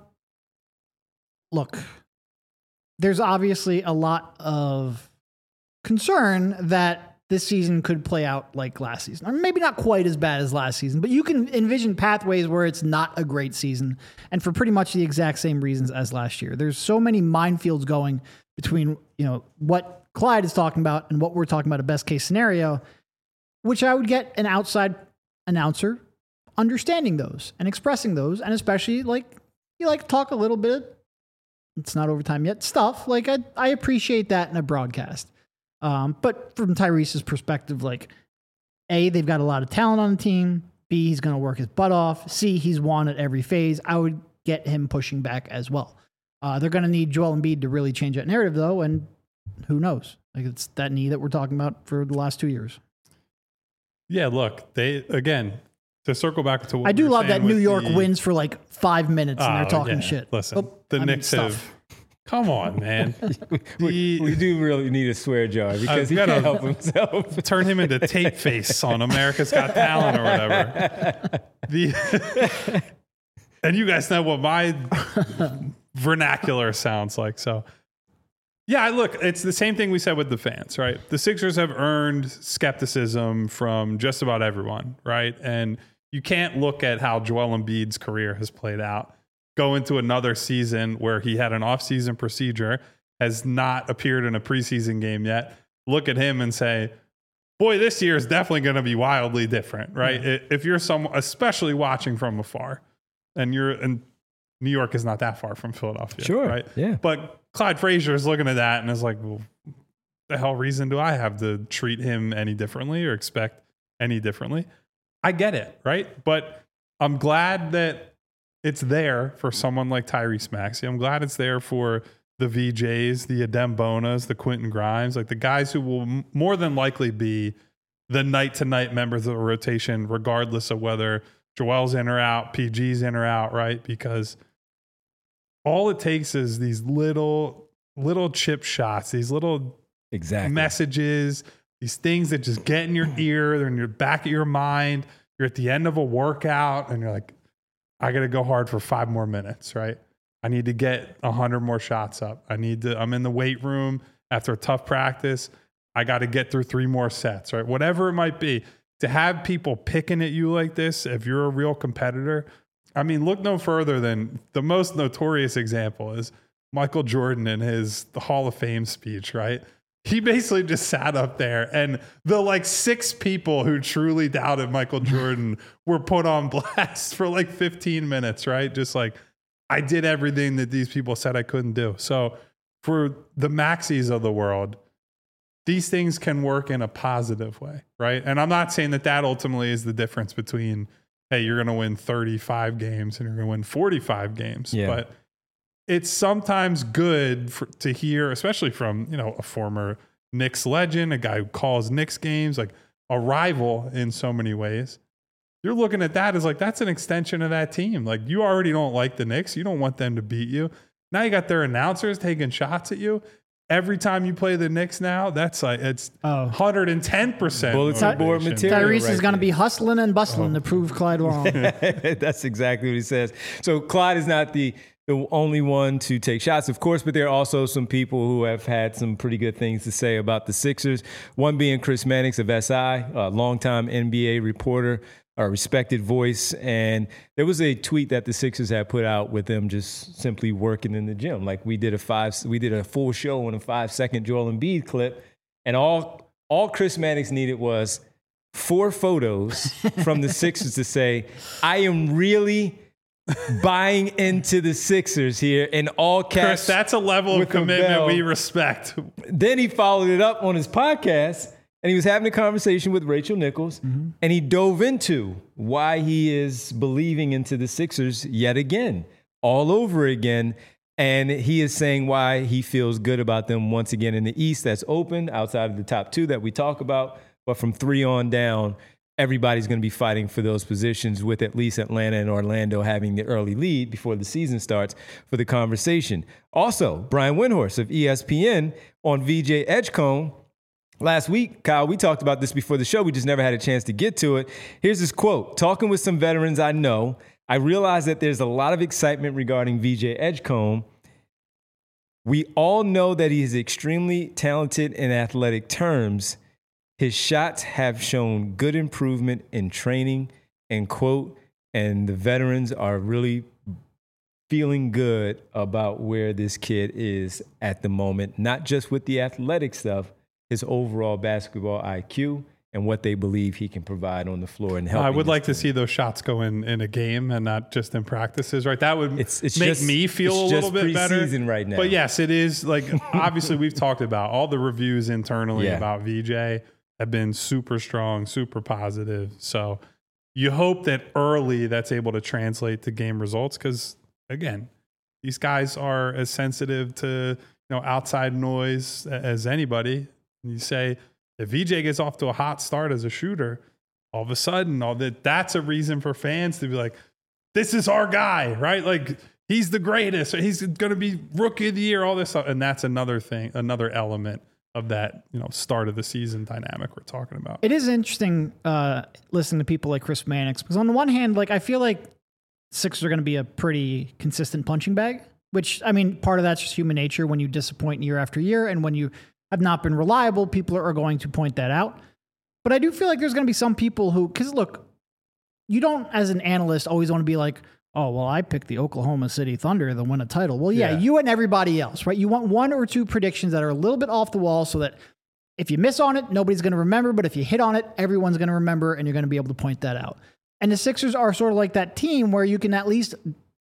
look, there's obviously a lot of concern that this season could play out like last season, or maybe not quite as bad as last season, but you can envision pathways where it's not a great season, and for pretty much the exact same reasons as last year. There's so many minefields going between, you know, what Clyde is talking about and what we're talking about, a best case scenario, which I would get an outside announcer understanding those and expressing those, and especially like you like to talk a little bit. It's not overtime yet. Stuff like I, I appreciate that in a broadcast. Um, but from Tyrese's perspective, like, A, they've got a lot of talent on the team. B, he's going to work his butt off. C, he's won at every phase. I would get him pushing back as well. Uh, they're going to need Joel Embiid to really change that narrative, though, and who knows? Like, it's that knee that we're talking about for the last two years. Yeah, look, they again to circle back to what I do we were love that saying New with York the, wins for like five minutes and Oh, they're talking yeah. shit. Listen, Oh, the I mean, Knicks stuff. have. Come on, man. we, The- we do really need a swear jar because he gotta- can't help himself. Turn him into tape face on America's Got Talent or whatever. The and you guys know what my vernacular sounds like. So, yeah, look, it's the same thing we said with the fans, right? The Sixers have earned skepticism from just about everyone, right? And you can't look at how Joel Embiid's career has played out, go into another season where he had an offseason procedure, has not appeared in a preseason game yet, look at him and say, boy, this year is definitely going to be wildly different, right? Mm-hmm. If you're someone, especially watching from afar, and you're, and New York is not that far from Philadelphia, Sure, right? yeah. But Clyde Frazier is looking at that and is like, well, the hell reason do I have to treat him any differently or expect any differently? I get it, right? But I'm glad that it's there for someone like Tyrese Maxey. I'm glad it's there for the V Js, the Adem Bonas, the Quentin Grimes, like the guys who will m- more than likely be the night-to-night members of the rotation, regardless of whether Joel's in or out, P G's in or out, right? Because all it takes is these little, little chip shots, these little Exactly. messages, these things that just get in your ear, they're in your back of your mind. You're at the end of a workout and you're like, I got to go hard for five more minutes, right? I need to get a hundred more shots up. I need to, I'm in the weight room after a tough practice. I got to get through three more sets, right? Whatever it might be. To have people picking at you like this, if you're a real competitor, I mean, look no further than the most notorious example is Michael Jordan in his Hall of Fame speech, right? He basically just sat up there and the like six people who truly doubted Michael Jordan were put on blast for like fifteen minutes, right? Just like, I did everything that these people said I couldn't do. So for the Maxies of the world, these things can work in a positive way, right? And I'm not saying that that ultimately is the difference between, hey, you're going to win thirty-five games and you're going to win forty-five games. Yeah. But it's sometimes good for, to hear, especially from, you know, a former Knicks legend, a guy who calls Knicks games, like a rival in so many ways. You're looking at that as like, that's an extension of that team. Like, you already don't like the Knicks. You don't want them to beat you. Now you got their announcers taking shots at you. Every time you play the Knicks now, that's like, it's Oh. one hundred ten percent Bulletin board motivation. material. Tyrese right is going to there. be hustling and bustling to prove Clyde wrong. That's exactly what he says. So Clyde is not the, the only one to take shots, of course, but there are also some people who have had some pretty good things to say about the Sixers. One being Chris Mannix of S I, a longtime N B A reporter, a respected voice. And there was a tweet that the Sixers had put out with them just simply working in the gym. Like we did a five, we did a full show on a five second Joel Embiid clip. And all, all Chris Mannix needed was four photos from the Sixers to say, I am really buying into the Sixers here in all caps. Chris, that's a level of with a commitment bell. we respect. Then he followed it up on his podcast, and he was having a conversation with Rachel Nichols, mm-hmm. and he dove into why he is believing into the Sixers yet again, all over again. And he is saying why he feels good about them once again in the East that's open outside of the top two that we talk about. But from three on down, everybody's going to be fighting for those positions, with at least Atlanta and Orlando having the early lead before the season starts for the conversation. Also, Brian Windhorst of E S P N on V J Edgecombe. Last week, Kyle, we talked about this before the show. We just never had a chance to get to it. Here's his quote. Talking with some veterans I know, I realize that there's a lot of excitement regarding V J Edgecombe. We all know that he is extremely talented in athletic terms. His shots have shown good improvement in training, and quote, and the veterans are really feeling good about where this kid is at the moment, not just with the athletic stuff, his overall basketball I Q and what they believe he can provide on the floor and help. I would like team. to see those shots go in, in a game and not just in practices, right? That would it's, it's make just, me feel a little bit better. Right now. But yes, it is like, obviously we've talked about all the reviews internally yeah. about V J have been super strong, super positive. So you hope that early that's able to translate to game results. Cause again, these guys are as sensitive to, you know, outside noise as anybody. And you say, if V J gets off to a hot start as a shooter, all of a sudden, all that that's a reason for fans to be like, this is our guy, right? Like, he's the greatest. He's going to be rookie of the year, all this stuff. And that's another thing, another element of that, you know, start of the season dynamic we're talking about. It is interesting uh, listening to people like Chris Mannix, because on the one hand, like, I feel like Sixers are going to be a pretty consistent punching bag, which, I mean, part of that's just human nature. When you disappoint year after year and when you have not been reliable, people are going to point that out. But I do feel like there's going to be some people who, because look, you don't, as an analyst, always want to be like, oh, well, I picked the Oklahoma City Thunder to win a title. Well, yeah, yeah, you and everybody else, right? You want one or two predictions that are a little bit off the wall so that if you miss on it, nobody's going to remember. But if you hit on it, everyone's going to remember, and you're going to be able to point that out. And the Sixers are sort of like that team where you can at least...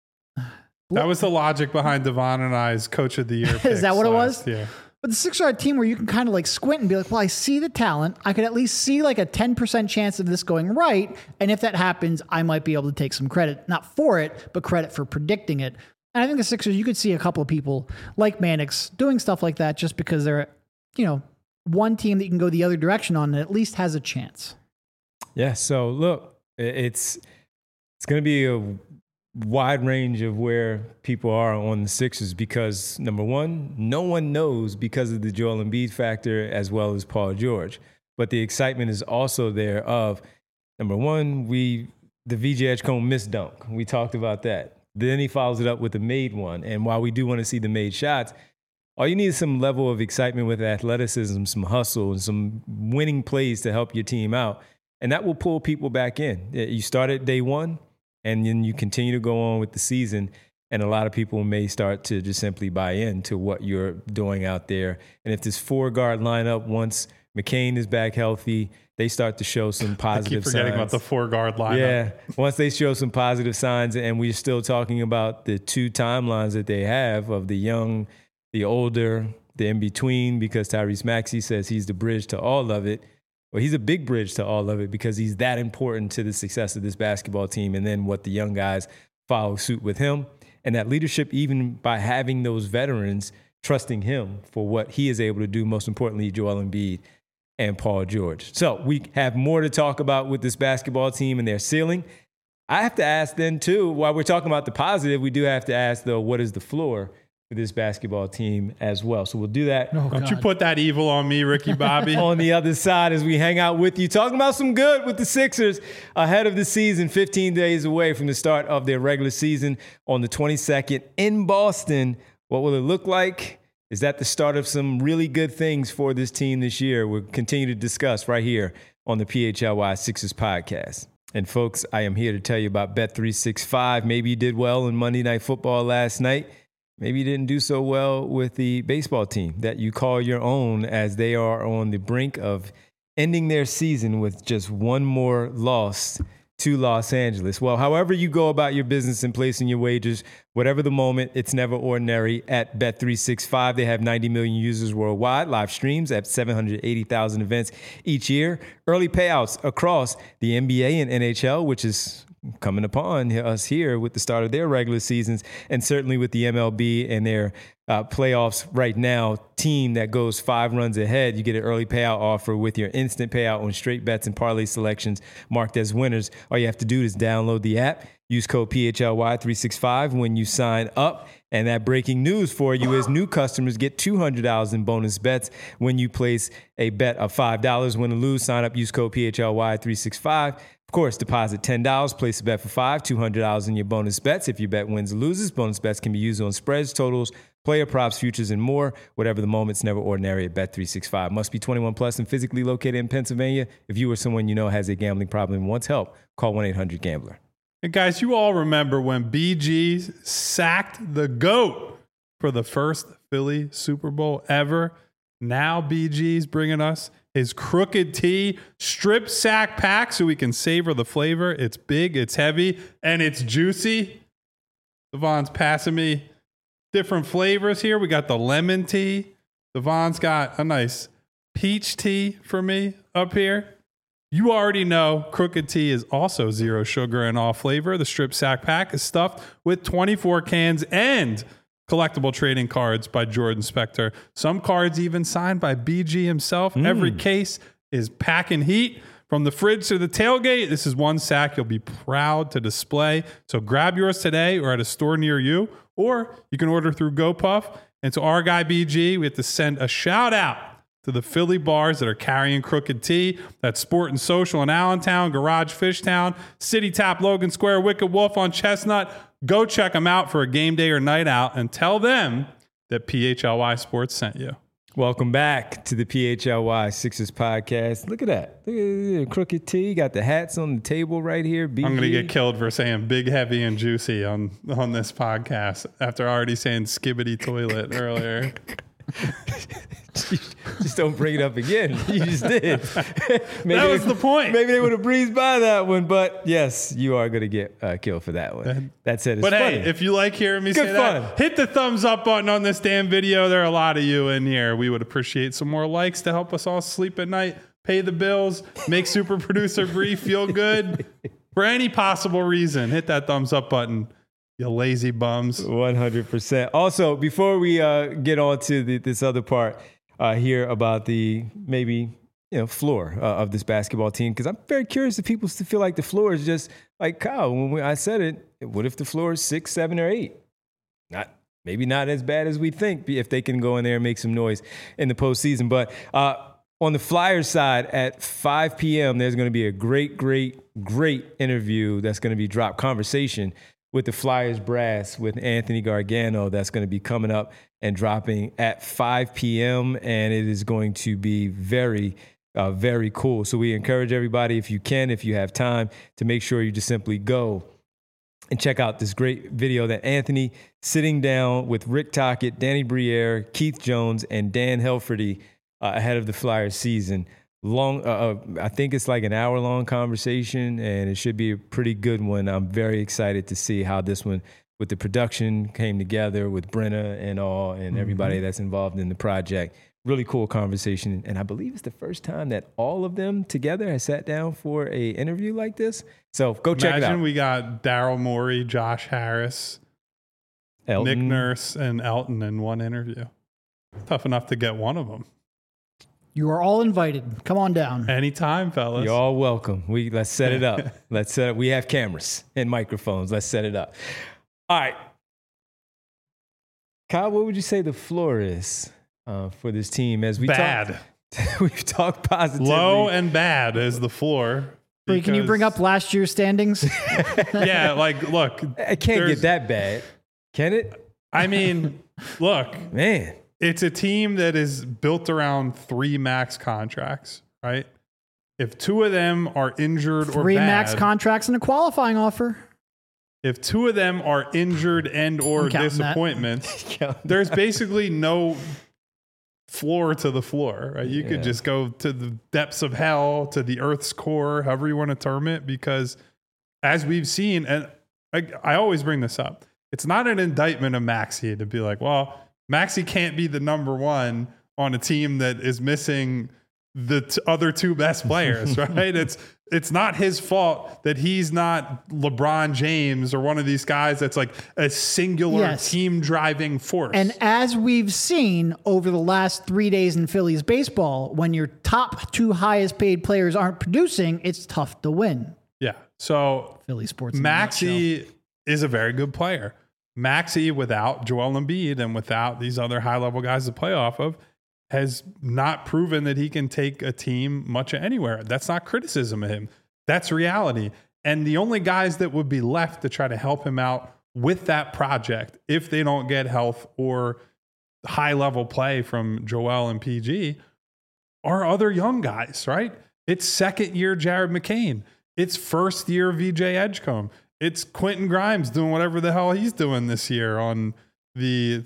That was the logic behind Devon and I's Coach of the Year. Is that what it was? Yeah. But the Sixers are a team where you can kind of like squint and be like, well, I see the talent. I could at least see like a ten percent chance of this going right. And if that happens, I might be able to take some credit, not for it, but credit for predicting it. And I think the Sixers, you could see a couple of people like Mannix doing stuff like that just because they're, you know, one team that you can go the other direction on that at least has a chance. Yeah. So look, it's, it's going to be a wide range of where people are on the Sixers because, number one, no one knows because of the Joel Embiid factor as well as Paul George. But the excitement is also there of, number one, we the V J Edgecombe missed dunk. We talked about that. Then he follows it up with the made one. And while we do want to see the made shots, all you need is some level of excitement with athleticism, some hustle, and some winning plays to help your team out. And that will pull people back in. You start at day one, and then you continue to go on with the season, and a lot of people may start to just simply buy into what you're doing out there. And if this four-guard lineup, once McCain is back healthy, they start to show some positive signs. I keep forgetting signs. about the four-guard lineup. Yeah, once they show some positive signs, and we're still talking about the two timelines that they have of the young, the older, the in-between, because Tyrese Maxey says he's the bridge to all of it. Well, he's a big bridge to all of it because he's that important to the success of this basketball team, and then what the young guys follow suit with him. And that leadership, even by having those veterans trusting him for what he is able to do, most importantly, Joel Embiid and Paul George. So we have more to talk about with this basketball team and their ceiling. I have to ask then, too, while we're talking about the positive, we do have to ask, though, what is the floor for this basketball team as well? So we'll do that. Oh, Don't you put that evil on me, Ricky Bobby. On the other side as we hang out with you, talking about some good with the Sixers ahead of the season, fifteen days away from the start of their regular season on the twenty-second in Boston. What will it look like? Is that the start of some really good things for this team this year? We'll continue to discuss right here on the P H L Y Sixers podcast. And folks, I am here to tell you about Bet three sixty-five. Maybe you did well in Monday Night Football last night. Maybe you didn't do so well with the baseball team that you call your own, as they are on the brink of ending their season with just one more loss to Los Angeles. Well, however you go about your business and placing your wagers, whatever the moment, it's never ordinary at Bet three sixty-five. They have ninety million users worldwide, live streams at seven hundred eighty thousand events each year, early payouts across the N B A and N H L, which is coming upon us here with the start of their regular seasons, and certainly with the M L B and their uh, playoffs right now. Team that goes five runs ahead, you get an early payout offer with your instant payout on straight bets and parlay selections marked as winners. All you have to do is download the app, use code P H L Y three sixty-five when you sign up. And that breaking news for you is new customers get two hundred dollars in bonus bets when you place a bet of five dollars. Win or lose, sign up, use code P H L Y three sixty-five. Of course, deposit ten dollars, place a bet for five dollars, two hundred dollars in your bonus bets. If your bet wins or loses, bonus bets can be used on spreads, totals, player props, futures, and more. Whatever the moment, it's never ordinary at Bet three sixty-five. Must be twenty-one plus and physically located in Pennsylvania. If you or someone you know has a gambling problem and wants help, call one eight hundred gambler. And guys, you all remember when B G sacked the GOAT for the first Philly Super Bowl ever. Now B G's bringing us his Crooked T strip sack pack so we can savor the flavor. It's big, it's heavy, and it's juicy. Devon's passing me different flavors here. We got the lemon tea. Devon's got a nice peach tea for me up here. You already know Crooked Tea is also zero sugar and all flavor. The strip sack pack is stuffed with twenty-four cans and collectible trading cards by Jordan Spector. Some cards even signed by B G himself. Mm. Every case is packing heat. From the fridge to the tailgate, this is one sack you'll be proud to display. So grab yours today or at a store near you, or you can order through GoPuff. And to our guy B G, we have to send a shout out to the Philly bars that are carrying Crooked Tea. That's Sport and Social in Allentown, Garage Fishtown, City Tap, Logan Square, Wicked Wolf on Chestnut. Go check them out for a game day or night out and tell them that P H L Y Sports sent you. Welcome back to the P H L Y Sixers podcast. Look at that. Look at the Crooked Tea. Got the hats on the table right here. B G. I'm going to get killed for saying big, heavy, and juicy on, on this podcast after already saying skibbity toilet earlier. Just don't bring it up again. You just did. Maybe that was they, the point. Maybe they would have breezed by that one, but yes, you are going to get uh, killed for that one. That said, it's but funny. Hey, if you like hearing me Good say fun. that, hit the thumbs up button on this damn video. There are a lot of you in here. We would appreciate some more likes to help us all sleep at night, pay the bills, make super producer Bree feel good. For any possible reason, hit that thumbs up button. You lazy bums. one hundred percent. Also, before we uh, get on to the, this other part uh, here about the maybe you know floor uh, of this basketball team, because I'm very curious if people still feel like the floor is just like Kyle. When we, I said it, what if the floor is six, seven, or eight? Not maybe not as bad as we think if they can go in there and make some noise in the postseason. But uh, on the Flyers side at five p.m., there's going to be a great, great, great interview that's going to be dropped, conversation with the Flyers brass with Anthony Gargano. That's going to be coming up and dropping at five p.m. And it is going to be very, uh, very cool. So we encourage everybody, if you can, if you have time, to make sure you just simply go and check out this great video that Anthony sitting down with Rick Tocchet, Danny Briere, Keith Jones, and Dan Helferty uh, ahead of the Flyers season. Long, uh, uh, I think it's like an hour-long conversation, and it should be a pretty good one. I'm very excited to see how this one, with the production, came together with Brenna and all, and everybody mm-hmm. that's involved in the project. Really cool conversation, and I believe it's the first time that all of them together has sat down for a interview like this. So go check it out. Imagine we got Daryl Morey, Josh Harris, Elton. Nick Nurse, and Elton in one interview. Tough enough to get one of them. You are all invited. Come on down. Anytime, fellas. You're all welcome. We let's set it up. Let's set it. We have cameras and microphones. Let's set it up. All right, Kyle, what would you say the floor is uh, for this team as we bad? Talk, we've talked positively. Low and bad is the floor. Wait, can you bring up last year's standings? Yeah, like look, it can't get that bad, can it? I mean, look, man. It's a team that is built around three max contracts, right? If two of them are injured three or bad, Three max contracts and a qualifying offer. If two of them are injured and or disappointments, there's basically no floor to the floor, right? You yeah. could just go to the depths of hell, to the Earth's core, however you want to term it, because as we've seen, and I, I always bring this up, it's not an indictment of Maxey to be like, well, Maxey can't be the number one on a team that is missing the t- other two best players, right? It's it's not his fault that he's not LeBron James or one of these guys that's like a singular Yes. team driving force. And as we've seen over the last three days in Phillies baseball, when your top two highest paid players aren't producing, it's tough to win. yeah, so Philly sports. in a nutshell. Maxey is a very good player. Maxey, without Joel Embiid and without these other high level guys to play off of, has not proven that he can take a team much anywhere. That's not criticism of him. That's reality. And the only guys that would be left to try to help him out with that project, if they don't get health or high level play from Joel and P G, are other young guys, right? It's second year Jared McCain. It's first year V J Edgecombe. It's Quentin Grimes doing whatever the hell he's doing this year on the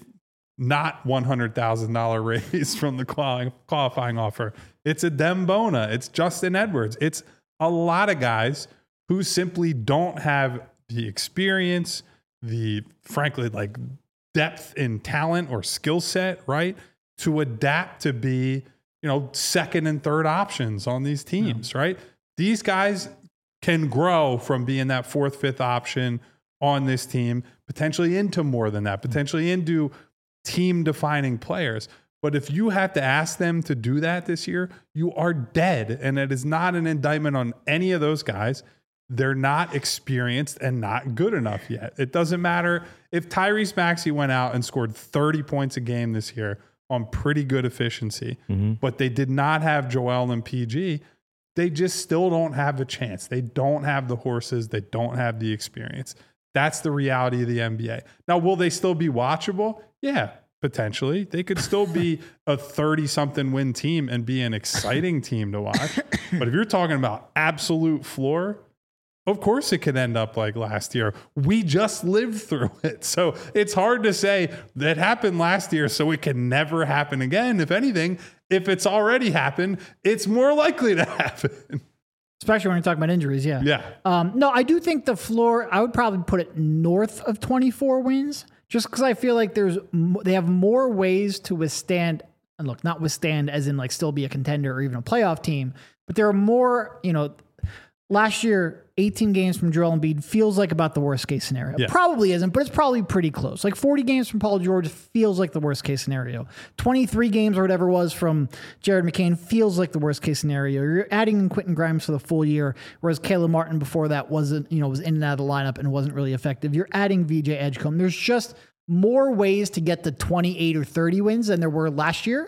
not one hundred thousand dollars raise from the quali- qualifying offer. It's Adem Bona. It's Justin Edwards. It's a lot of guys who simply don't have the experience, the frankly like depth in talent or skill set, right, to adapt to be, you know, second and third options on these teams, yeah. right? These guys can grow from being that fourth, fifth option on this team, potentially into more than that, potentially into team defining players. But if you have to ask them to do that this year, you are dead. And it is not an indictment on any of those guys. They're not experienced and not good enough yet. It doesn't matter if Tyrese Maxey went out and scored thirty points a game this year on pretty good efficiency, mm-hmm. but they did not have Joel and P G. They just still don't have a chance. They don't have the horses. They don't have the experience. That's the reality of the N B A. Now, will they still be watchable? Yeah, potentially. They could still be a thirty-something win team and be an exciting team to watch. But if you're talking about absolute floor, of course it could end up like last year. We just lived through it. So it's hard to say that happened last year, so it can never happen again. If anything, if it's already happened, it's more likely to happen. Especially when you're talking about injuries, yeah. Yeah. Um, no, I do think the floor, I would probably put it north of twenty-four wins, just because I feel like there's they have more ways to withstand, and look, not withstand as in like still be a contender or even a playoff team, but there are more, you know, last year, eighteen games from Joel Embiid feels like about the worst case scenario. Yeah. Probably isn't, but it's probably pretty close. Like forty games from Paul George feels like the worst case scenario. twenty-three games or whatever it was from Jared McCain feels like the worst case scenario. You're adding in Quentin Grimes for the full year, whereas Caleb Martin before that wasn't, you know, was in and out of the lineup and wasn't really effective. You're adding V J Edgecombe. There's just more ways to get the twenty-eight or thirty wins than there were last year.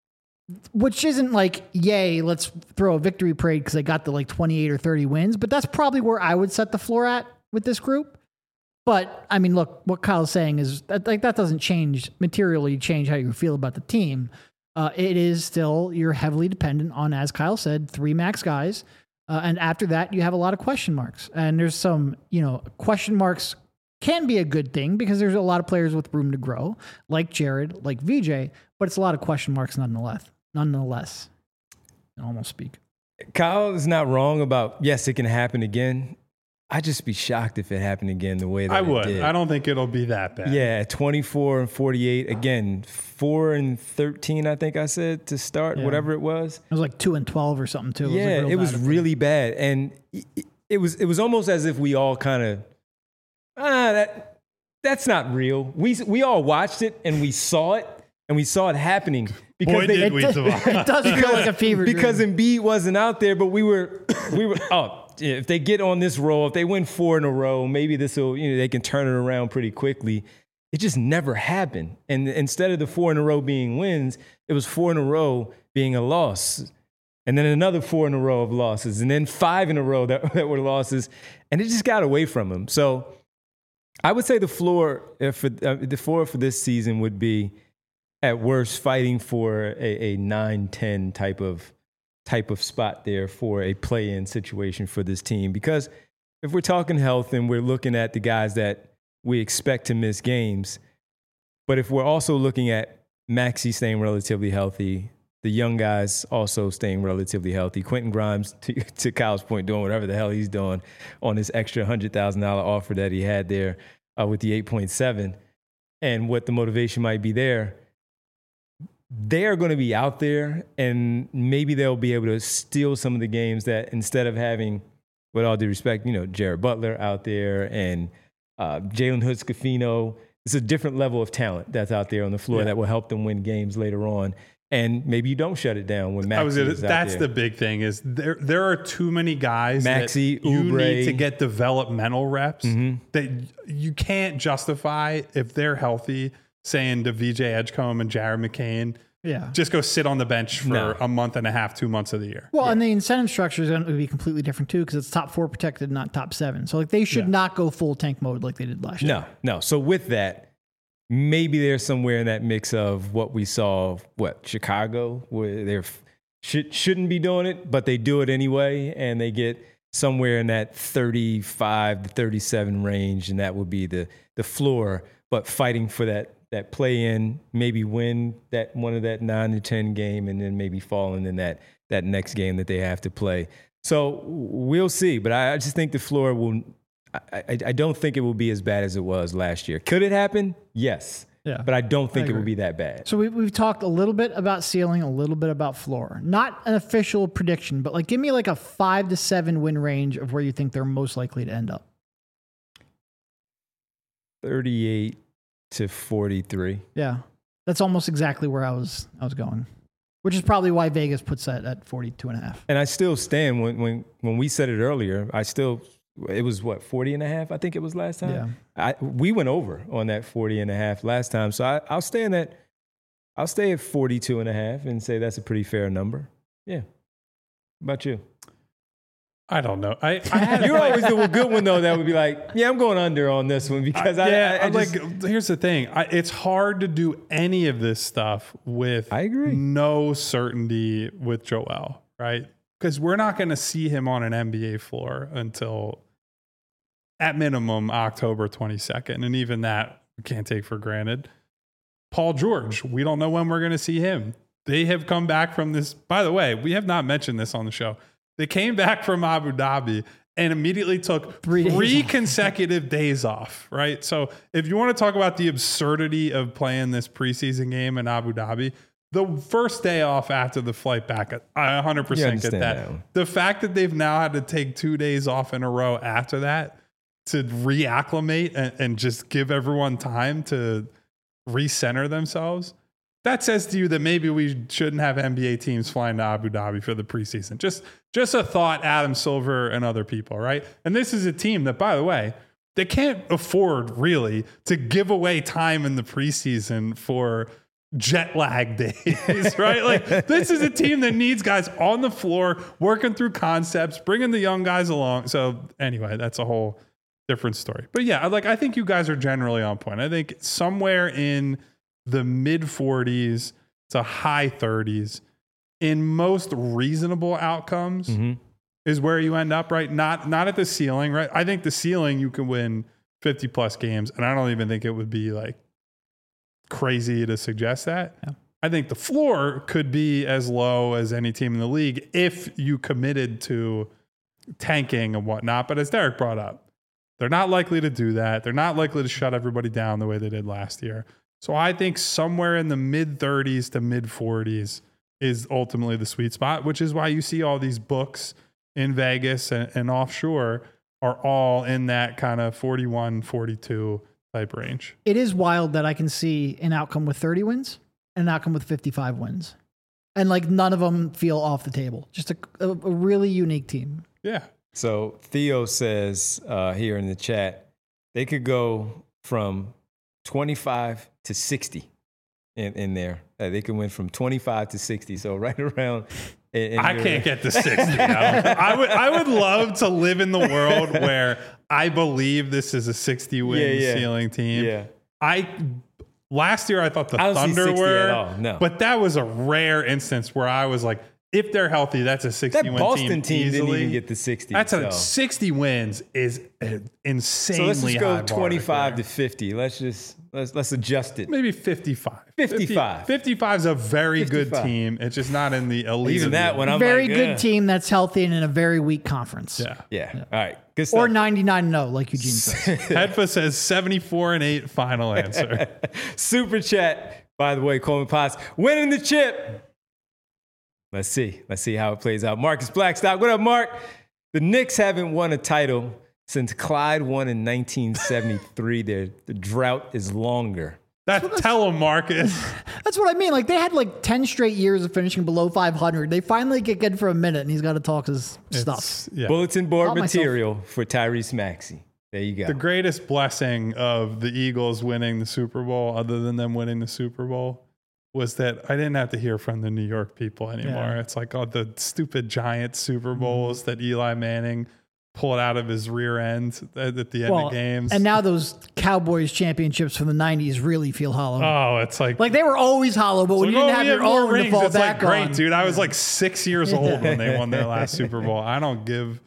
Which isn't like, yay, let's throw a victory parade because they got the like twenty-eight or thirty wins, but that's probably where I would set the floor at with this group. But I mean, look, what Kyle's saying is that like that doesn't change materially change how you feel about the team. Uh, it is still, you're heavily dependent on, as Kyle said, three max guys. Uh, and after that, you have a lot of question marks. And there's some, you know, question marks can be a good thing because there's a lot of players with room to grow, like Jared, like V J, but it's a lot of question marks nonetheless. Nonetheless, I almost speak. Kyle is not wrong about, yes, it can happen again. I'd just be shocked if it happened again the way that I it would. did. I don't think it'll be that bad. Yeah, twenty-four and forty-eight. Again, four and thirteen, I think I said, to start, Yeah. whatever it was. It was like two and twelve or something too. Yeah, it was, like it was bad. really bad. And it, it was it was almost as if we all kind of, ah, that that's not real. We we all watched it and we saw it and we saw it happening. Because Boy, they, did we It survive. does feel like a fever dream. because Embiid wasn't out there, but we were, we were. Oh, if they get on this roll, if they win four in a row, maybe this will, you know, they can turn it around pretty quickly. It just never happened. And instead of the four in a row being wins, it was four in a row being a loss, and then another four in a row of losses, and then five in a row that, that were losses, and it just got away from him. So I would say the floor uh, for uh, the floor for this season would be, at worst, fighting for a, a nine ten type of type of spot there for a play-in situation for this team. Because if we're talking health and we're looking at the guys that we expect to miss games, but if we're also looking at Maxey staying relatively healthy, the young guys also staying relatively healthy. Quentin Grimes, to, to Kyle's point, doing whatever the hell he's doing on this extra one hundred thousand dollars offer that he had there uh, with the eight point seven, and what the motivation might be there. They're going to be out there, and maybe they'll be able to steal some of the games that, instead of having, with all due respect, you know, Jared Butler out there and uh, Jalen Hood-Schifino, it's a different level of talent that's out there on the floor yeah. that will help them win games later on. And maybe you don't shut it down when Maxey I was gonna, is out That's there. The big thing is there there are too many guys Maxey, that you Oubre. need to get developmental reps mm-hmm. that you can't justify if they're healthy saying to V J Edgecombe and Jared McCain, yeah, just go sit on the bench for no. a month and a half, two months of the year. Well, yeah. and the incentive structure is going to be completely different too because it's top four protected, not top seven. So like they should yeah. not go full tank mode like they did last no, year. No, no. So with that, maybe there's somewhere in that mix of what we saw, what, Chicago, where they should, shouldn't be doing it, but they do it anyway, and they get somewhere in that thirty-five to thirty-seven range, and that would be the the floor, but fighting for that that play in, maybe win that one of that nine to ten game, and then maybe falling in that that next game that they have to play. So we'll see, but I, I just think the floor will. I, I, I don't think it will be as bad as it was last year. Could it happen? Yes. Yeah. But I don't think I it will be that bad. So we, we've talked a little bit about ceiling, a little bit about floor. Not an official prediction, but like give me like a five to seven win range of where you think they're most likely to end up. thirty-eight to forty-three. Yeah. That's almost exactly where I was I was going. Which is probably why Vegas puts that at forty-two and a half. And I still stand when when when we said it earlier, I still it was what, forty and a half, I think it was last time. Yeah. I we went over on that forty and a half last time. So I, I'll stay in that I'll stay at forty-two and a half and say that's a pretty fair number. Yeah. How about you? I don't know. I, I had You're always the good one though that would be like, yeah, I'm going under on this one because I, I yeah, I, I just, like here's the thing. I, it's hard to do any of this stuff with I agree. no certainty with Joel, right? Because we're not going to see him on an N B A floor until at minimum October twenty-second, and even that we can't take for granted. Paul George, we don't know when we're going to see him. They have come back from this. By the way, we have not mentioned this on the show. They came back from Abu Dhabi and immediately took three, three consecutive days off, right? So if you want to talk about the absurdity of playing this preseason game in Abu Dhabi, the first day off after the flight back, I one hundred percent get that. that the fact that they've now had to take two days off in a row after that to reacclimate and, and just give everyone time to recenter themselves, that says to you that maybe we shouldn't have N B A teams flying to Abu Dhabi for the preseason. Just, just a thought, Adam Silver and other people, right? And this is a team that, by the way, they can't afford really to give away time in the preseason for jet lag days, right? Like this is a team that needs guys on the floor working through concepts, bringing the young guys along. So anyway, that's a whole different story. But yeah, like I think you guys are generally on point. I think somewhere in the mid forties to high thirties in most reasonable outcomes mm-hmm. is where you end up, right? Not not at the ceiling, right? I think the ceiling you can win fifty plus games, and I don't even think it would be like crazy to suggest that. Yeah. I think the floor could be as low as any team in the league if you committed to tanking and whatnot. But as Derek brought up, they're not likely to do that. They're not likely to shut everybody down the way they did last year. So I think somewhere in the mid thirties to mid forties is ultimately the sweet spot, which is why you see all these books in Vegas and, and offshore are all in that kind of forty-one, forty-two type range. It is wild that I can see an outcome with thirty wins and an outcome with fifty-five wins. And like none of them feel off the table. Just a, a, a really unique team. Yeah. So Theo says uh, here in the chat, they could go from twenty-five to sixty in, in there. Uh, they can win from twenty-five to sixty. So right around. In, in I your, can't get to sixty. I, I would I would love to live in the world where I believe this is a sixty win yeah, yeah. ceiling team. Yeah. I last year I thought the I don't Thunder see sixty were, at all. No. But that was a rare instance where I was like, if they're healthy, that's a sixty that win Boston team. team easily. didn't even get the sixty. That's so. a sixty wins is insanely So let's just go high bar twenty-five to to fifty. Let's just Let's let's adjust it. Maybe fifty-five. fifty-five. fifty-five is a very fifty-five. good team. It's just not in the elite. Even of that the- one, I'm Very like, good yeah. team that's healthy and in a very weak conference. Yeah. Yeah. All right. Good stuff. Or ninety-nine and oh, like Eugene says. Hedfa says seventy-four and eight final answer. Super chat, by the way, Coleman Potts winning the chip. Let's see. Let's see how it plays out. Marcus Blackstock. What up, Mark? The Knicks haven't won a title since Clyde won in nineteen seventy-three. Their the drought is longer. That tell him, Marcus. That's what I mean. Like they had like ten straight years of finishing below five hundred. They finally get good for a minute and he's got to talk his stuff. It's- Yeah. Bulletin board Caught myself. material for Tyrese Maxey. There you go. The greatest blessing of the Eagles winning the Super Bowl, other than them winning the Super Bowl, was that I didn't have to hear from the New York people anymore. Yeah. It's like, oh, the stupid giant Super Bowls that Eli Manning pulled out of his rear end at, at the end Well, of games. and now those Cowboys championships from the nineties really feel hollow. oh, it's like, like they were always hollow, but when like, you didn't oh, have we your more own to rings. fall It's back like, great, on. dude. I was like six years old when they won their last Super Bowl. I don't give.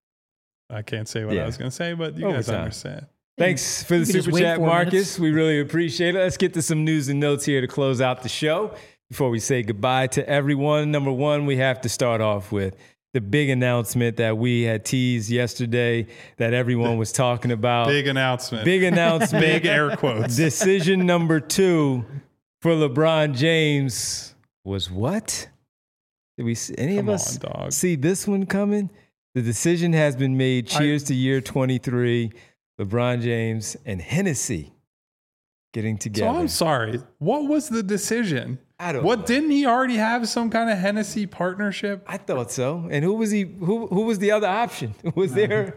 I can't say what Yeah. I was going to say, but you guys Overtime. understand. Thanks for the You can just super wait chat, four Marcus. minutes. We really appreciate it. Let's get to some news and notes here to close out the show. Before we say goodbye to everyone, number one, we have to start off with the big announcement that we had teased yesterday that everyone was talking about. Big announcement. Big announcement. Big air quotes. Decision number two for LeBron James was what? Did we see any Come of us on, dog. see this one coming? The decision has been made. Cheers to year twenty-three. LeBron James and Hennessy getting So together. I'm sorry. What was the decision? I don't What know. didn't he already have some kind of Hennessy partnership? I thought so. And who was he? Who who was the other option? Was there?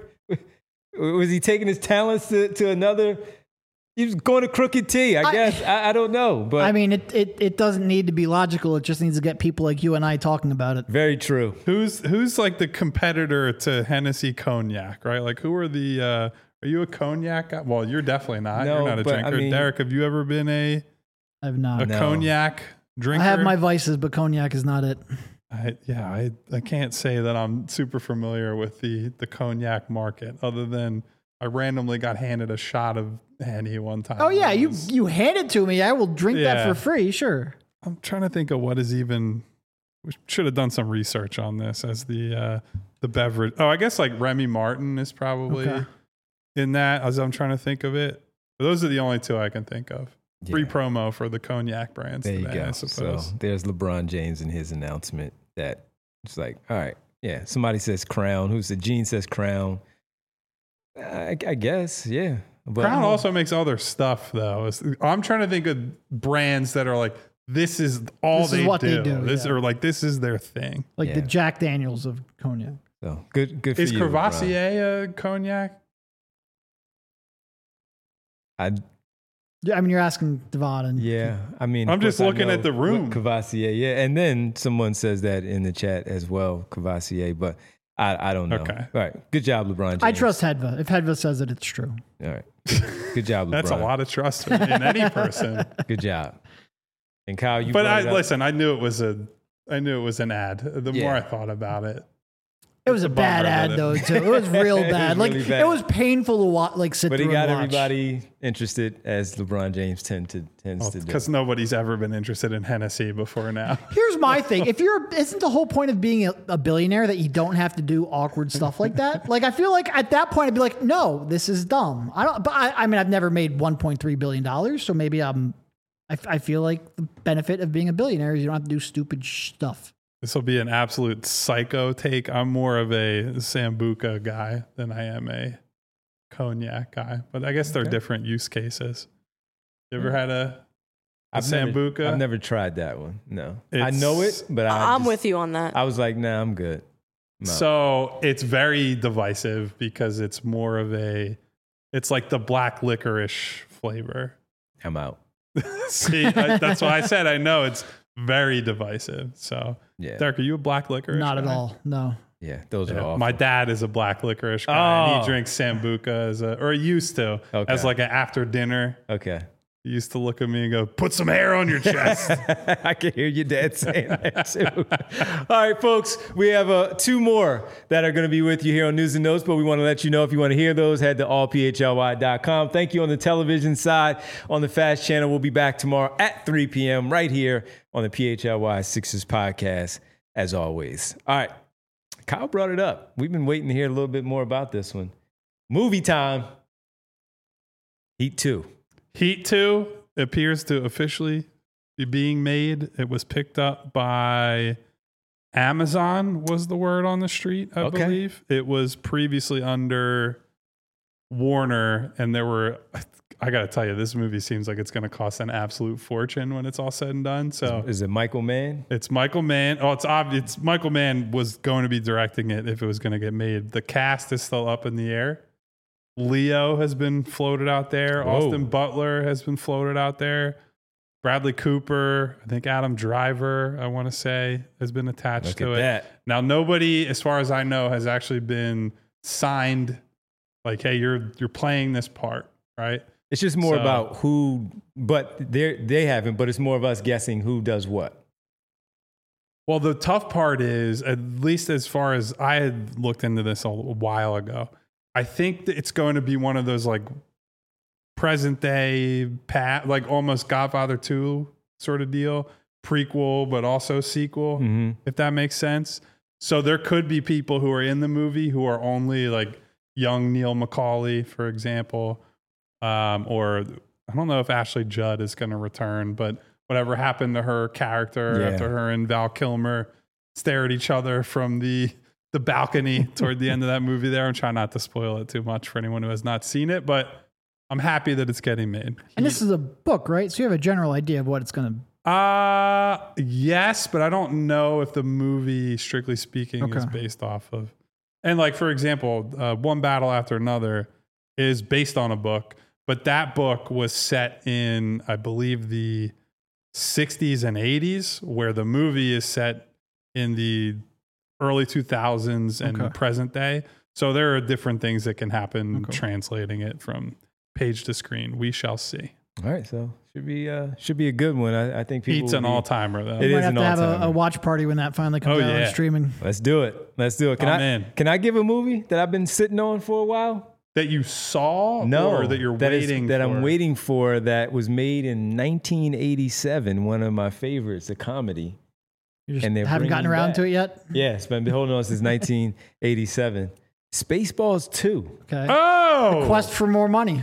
Was he taking his talents to, to another? He was going to Crooked T, I I- guess. I, I don't know, but I mean, it, it it doesn't need to be logical. It just needs to get people like you and I talking about it. very true. Who's who's like the competitor to Hennessy Cognac, right? Like who are the uh are you a cognac guy? Well, you're definitely not. No, you're not a but, I drinker. mean- Derek, have you ever been a, I've a not. No. cognac drinker? I have my vices, but cognac is not it. I, yeah, I, I can't say that I'm super familiar with the, the cognac market other than I randomly got handed a shot of Henny one time. Oh yeah, It you was- you hand it to me. I will drink Yeah. that for free. Sure. I'm trying to think of what is even. We should have done some research on this as the uh, the beverage. Oh, I guess like Remy Martin is probably Okay. in that. As I'm trying to think of it, those are the only two I can think of. Free Yeah. promo for the cognac brands. There you today, go. I So suppose. there's LeBron James and his announcement that it's like, all right, yeah. Somebody says Crown. Who said Gene says Crown? I, I guess, yeah. But Crown also makes other stuff though. It's- I'm trying to think of brands that are like this is all This is they, what do. they do, This yeah. or like this is their thing. Like the Yeah. Jack Daniels of cognac. So good, good for Is you. LeBron. Crevassier a cognac? I Yeah, I mean, you're asking Devon and yeah. I mean, I'm of just course I looking know at the what room. Cavassier, yeah. And then someone says that in the chat as well, Cavassier. But I, I don't know. Okay. All right. Good job, LeBron James. I trust Hedva. If Hedva says it, it's true. All right. Good job, LeBron. That's a lot of trust in any person. Good job. And Kyle, you. But brought I it up. listen. I knew it was a. I knew it was an ad. The Yeah. more I thought about it, It was It's a a bad bummer ad that it- though. Too. It was real It was bad. like really bad. it was painful to watch. Like sit But he through got and watch. everybody interested, as LeBron James tend to tends to do. because nobody's ever been interested in Hennessy before now. Here's my thing: if you're, isn't the whole point of being a, a billionaire that you don't have to do awkward stuff like that? Like, I feel like at that point I'd be like, no, this is dumb. I don't. But I, I mean, I've never made one point three billion dollars, so maybe I'm. I, I feel like the benefit of being a billionaire is you don't have to do stupid sh- stuff. This will be an absolute psycho take. I'm more of a Sambuca guy than I am a cognac guy, but I guess they're Okay. different use cases. You ever had a, a I've never, Sambuca? I've never tried that one. No, I It's- know it, but I I'm just- with you on that. I was like, nah, I'm good. No. So it's very divisive because it's more of a, it's like the black licorice flavor. I'm out. See, I, that's why I said I know it's very divisive. So, Yeah, Derek, are you a black licorice? Not at guy? all. No. yeah, those are Yeah, awful. my dad is a black licorice guy, and Oh. he drinks Sambuca as a, or he used to, Okay. as like an after dinner. okay, He used to look at me and go, put some hair on your chest. I can hear your dad saying that too. All right, folks, we have uh, two more that are going to be with you here on News and Notes, but we want to let you know if you want to hear those, head to all p h l y dot com. Thank you on the television side. On the Fast Channel, we'll be back tomorrow at three p.m. right here on the P H L Y Sixers podcast, as always. All right, Kyle brought it up. We've been waiting to hear a little bit more about this one. Movie time. Heat two. Heat two appears to officially be being made. It was picked up by Amazon, was the word on the street, I Okay. believe. It was previously under Warner, and there were, I got to tell you, this movie seems like it's going to cost an absolute fortune when it's all said and done. So Is it Michael Mann? it's Michael Mann. Oh, it's obvious. It's Michael Mann was going to be directing it if it was going to get made. The cast is still up in the air. Leo has been floated out there. Whoa. Austin Butler has been floated out there. Bradley Cooper, I think Adam Driver, I want to say, has been attached Look to at it. that. Now, nobody, as far as I know, has actually been signed. Like, hey, you're you're playing this part, right? It's just more So- about who, but they they haven't, but it's more of us guessing who does what. Well, the tough part is, at least as far as I had looked into this a while ago, I think that it's going to be one of those like present day, pat, like almost Godfather two sort of deal, prequel, but also sequel, Mm-hmm. if that makes sense. So there could be people who are in the movie who are only like young Neil McCauley, for example, um, or I don't know if Ashley Judd is going to return, but whatever happened to her character Yeah. after her and Val Kilmer stare at each other from the the balcony toward the end of that movie there. I'm trying not to spoil it too much for anyone who has not seen it, but I'm happy that it's getting made. And this is a book, right? So you have a general idea of what it's going to. Uh yes, but I don't know if the movie, strictly speaking, Okay. is based off of. And like, for example, uh, One Battle After Another is based on a book, but that book was set in, I believe, the sixties and eighties, where the movie is set in the early two thousands and Okay. present day. So there are different things that can happen Okay. translating it from page to screen. We shall see. All right, so should be uh, should be a good one. I, I think people Heat's will an be- all timer though. It Might is have an to have a, all-timer. a watch party when that finally comes Oh, out yeah. on streaming. Let's do it. Let's do it. Can I'm I in. can I give a movie that I've been sitting on for a while? That you saw, No, or that you're that is- waiting that for? I'm waiting for. That was made in nineteen eighty-seven. One of my favorites, a comedy. You just And they're haven't gotten bringing around back- to it yet. Yes, but I've been holding on since nineteen eighty-seven. Spaceballs two. Okay. Oh, Quest for more money.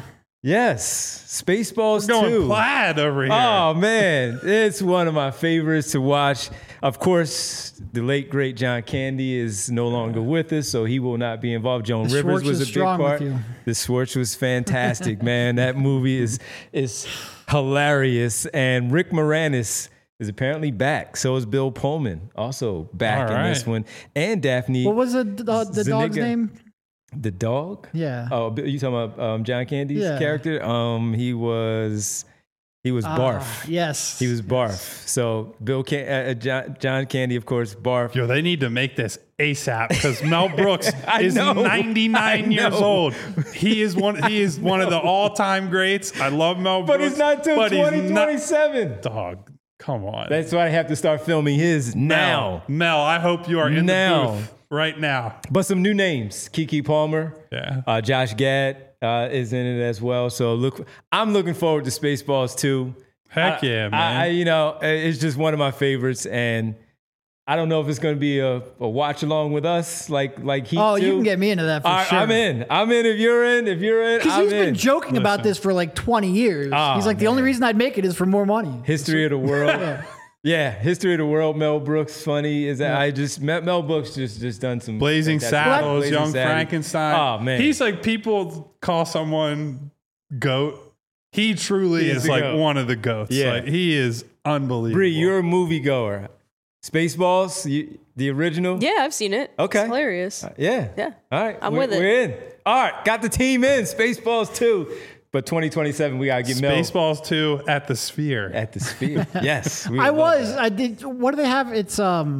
Yes, Spaceballs going two. plaid over here. Oh man, it's one of my favorites to watch. Of course, the late great John Candy is no longer with us, so he will not be involved. Joan The Rivers Schwartz was is a big strong with part. you. The Schwartz was fantastic, man. That movie is is hilarious, and Rick Moranis is apparently back. So is Bill Pullman, also back All in this right. one, and Daphne. What was it, uh, the dog's Zuniga. name? The dog? Yeah. Oh, you talking about um, John Candy's Yeah. character? Um, he was he was Ah, Barf. yes. He was Barf. So Bill Can- uh, uh, John, John Candy, of course, Barf. Yo, they need to make this ASAP because Mel Brooks I is know. ninety-nine I years know. old. He is one. He is one of the all-time greats. I love Mel But Brooks, he's not till but he's twenty not- twenty-seven. Dog, come on. That's why I have to start filming his now. Mel, Mel, I hope you are in Now. the booth right now. But some new names: Kiki Palmer, Yeah. uh, Josh Gad uh, is in it as well. So look, I'm looking forward to Spaceballs two. Heck I- yeah, man. I, I, you know, it's just one of my favorites, and I don't know if it's going to be a, a watch along with us, like like Heat Oh, two. you can get me into that for All right, sure. I'm in. I'm in. If you're in, if you're in, Because I'm he's in. been joking about Listen. this for like twenty years. Oh, he's like, the man. only reason I'd make it is for more money. History of the world. Yeah, History of the World. Mel Brooks, funny is that I just Mel Mel Brooks just just done some Blazing fantastic- Saddles, Blazing Young Saddles. Frankenstein. Oh man, He's like, people call someone goat. He truly He is is the like goat. one of the goats. Yeah. Like, he is unbelievable. Bree, you're a moviegoer. Spaceballs, you, the original. Yeah, I've seen it. Okay. It's hilarious. Yeah. Yeah. All right. I'm we're, with it. We're in. All right. Got the team in. Spaceballs two. But twenty twenty-seven, we gotta get Mel Spaceballs two at the Sphere. at the Sphere. Yes. we I would love was. that. I did. What do they have? It's um.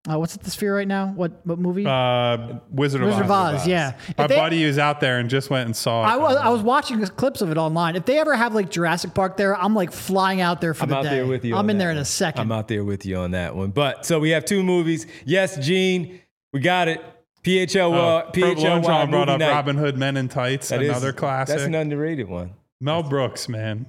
Uh, what's at the Sphere right now? What what movie? Uh, Wizard of Wizard of Oz. Oz, yeah. My If they- buddy was out there and just went and saw it. I was I was watching clips of it online. If they ever have like Jurassic Park there, I'm like flying out there for I'm the out day. there with you. I'm on in that there in one. a second. I'm out there with you on that one. But so we have two movies. Yes, Gene, we got it. P H L, Oh, uh, P H L Y John brought movie up night. Robin Hood Men in Tights, That is- another classic. That's an underrated one. Mel Brooks, man.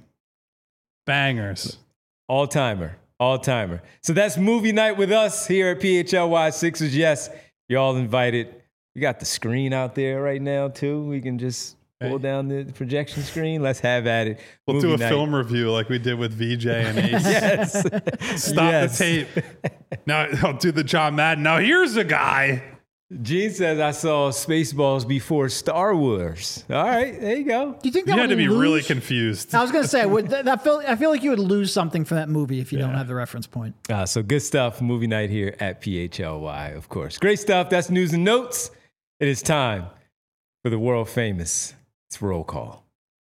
Bangers. All timer. All timer. So that's movie night with us here at P H L Y Sixers. Yes, you're all invited. We got the screen out there right now, too. We can just pull Hey. down the projection screen. Let's have at it. We'll Movie do a night. film review like we did with V J and Ace. Yes. Stop Yes. the tape. Now I'll do the John Madden. Now here's a guy. Gene says I saw Spaceballs before Star Wars. All right, there you go. Do you think You that had would to be lose? really confused. I was gonna say, would that, that feel, I feel like you would lose something from that movie if you don't have the reference point. Uh, so good stuff. Movie night here at P H L Y, of course. Great stuff. That's news and notes. It is time for the world famous. It's roll call.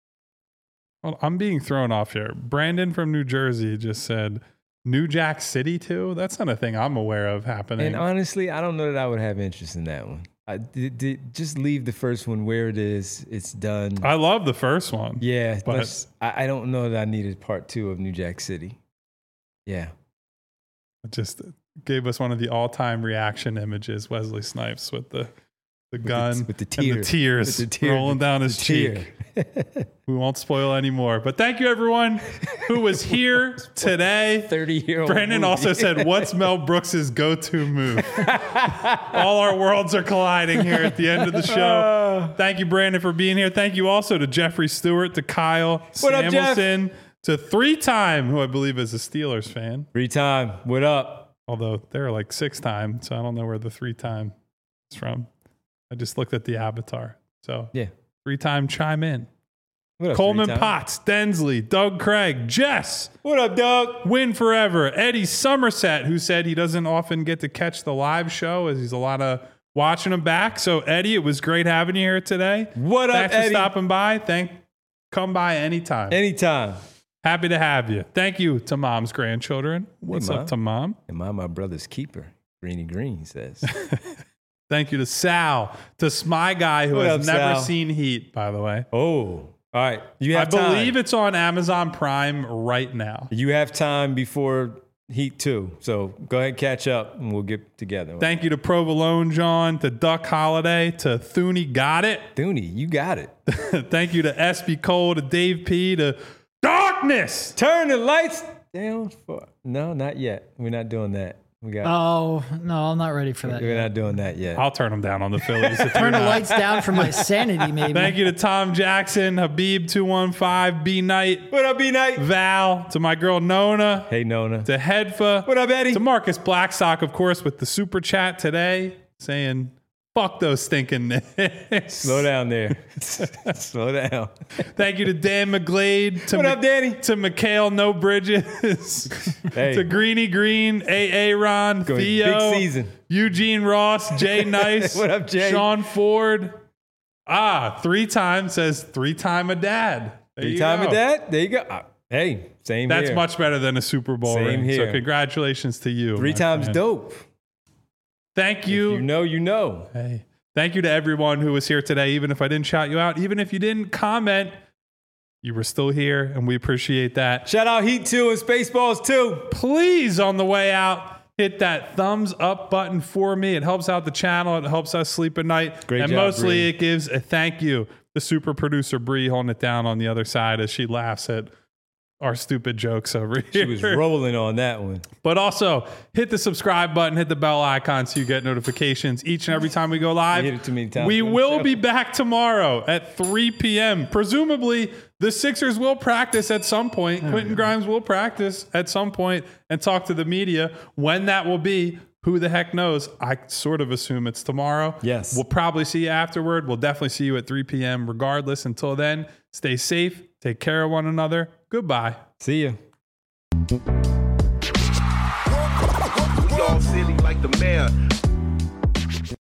Well, I'm being thrown off here. Brandon from New Jersey just said New Jack City too. That's not a thing I'm aware of happening. And honestly, I don't know that I would have interest in that one. I did, did, just leave the first one where it is. It's done. I love the first one. yeah, but- let's- I, I don't know that I needed part two of New Jack City. Yeah. It just gave us one of the all-time reaction images. Wesley Snipes with the the gun the- with the and tear. the tears With the tear- rolling down the his tear. cheek. We won't spoil any more. But thank you everyone who was here today. thirty-year-old Brandon movie. also said, "What's Mel Brooks's go-to move?" All our worlds are colliding here at the end of the show. Thank you, Brandon, for being here. Thank you also to Jeffrey Stewart, to Kyle What up, Jeff? Samuelson, to three-time, who I believe is a Steelers fan. Three time. What up? Although they're like six-time, so I don't know where the three-time is from. I just looked at the avatar. So Yeah. three-time chime in. What up, Coleman three-time? Potts, Densley, Doug Craig, Jess, What up, Doug? Win Forever, Eddie Somerset, who said he doesn't often get to catch the live show as he's a lot of watching them back. So Eddie, it was great having you here today. What up, Thanks Eddie? for stopping by. Thank, come by anytime. Anytime. Happy to have you. Thank you to Mom's grandchildren. What's Mom. up to Mom? Am I my brother's keeper? Greeny Green says. Thank you to Sal, to Smy Guy, who What has up, never Sal? seen Heat, by the way. Oh, all right. You I have time. believe it's on Amazon Prime right now. You have time before Heat two. So go ahead and catch up and we'll get together. Thank you to Provolone John, to Duck Holiday, to Thuney Got It. Dooney, you got it. Thank you to S B Cole, to Dave P, to Darkness. Turn the lights down for. No, not yet. We're not doing that. We got. Oh no, I'm not ready for that. we're yet. not doing that yet. I'll turn them down on the Phillies. if Turn you're the not. lights down for my sanity, maybe. Thank you to Tom Jackson, Habib two one five, B Knight, What up, B Night? Val, to my girl Nona, Hey, Nona. to Hedfa, What up, Eddie? to Marcus Blackstock, of course, with the super chat today, saying, fuck those stinking Knicks. Slow down there. Slow down. Thank you to Dan McGlade, to What up, Danny? to Mikhail No Bridges, Hey. to Greeny Green, A A Ron, Going Theo, big season. Eugene Ross, Jay Nice, What up, Jay? Sean Ford. Ah, three times says three time a dad. There Three you time go. of that? There you go. Uh, hey, same That's here. much better than a Super Bowl Same ring. here. So congratulations to you. Three my times friend. dope. Thank You you. know, you know. Hey, thank you to everyone who was here today. Even if I didn't shout you out, even if you didn't comment, you were still here, and we appreciate that. Shout out Heat two and Spaceballs two. Please, on the way out, hit that thumbs up button for me. It helps out the channel. It helps us sleep at night. Great and job, mostly Bree. it gives a thank you to super producer Bree holding it down on the other side as she laughs at our stupid jokes over here. She was rolling on that one. But also, hit the subscribe button, hit the bell icon so you get notifications each and every time we go live. You hit it too many times We on the will show. be back tomorrow at three p.m. Presumably, the Sixers will practice at some point. Quentin Grimes will practice at some point and talk to the media. When that will be, who the heck knows? I sort of assume it's tomorrow. Yes. We'll probably see you afterward. We'll definitely see you at three p.m. regardless. Until then, stay safe. Take care of one another. Goodbye. See ya. We all silly like the mayor.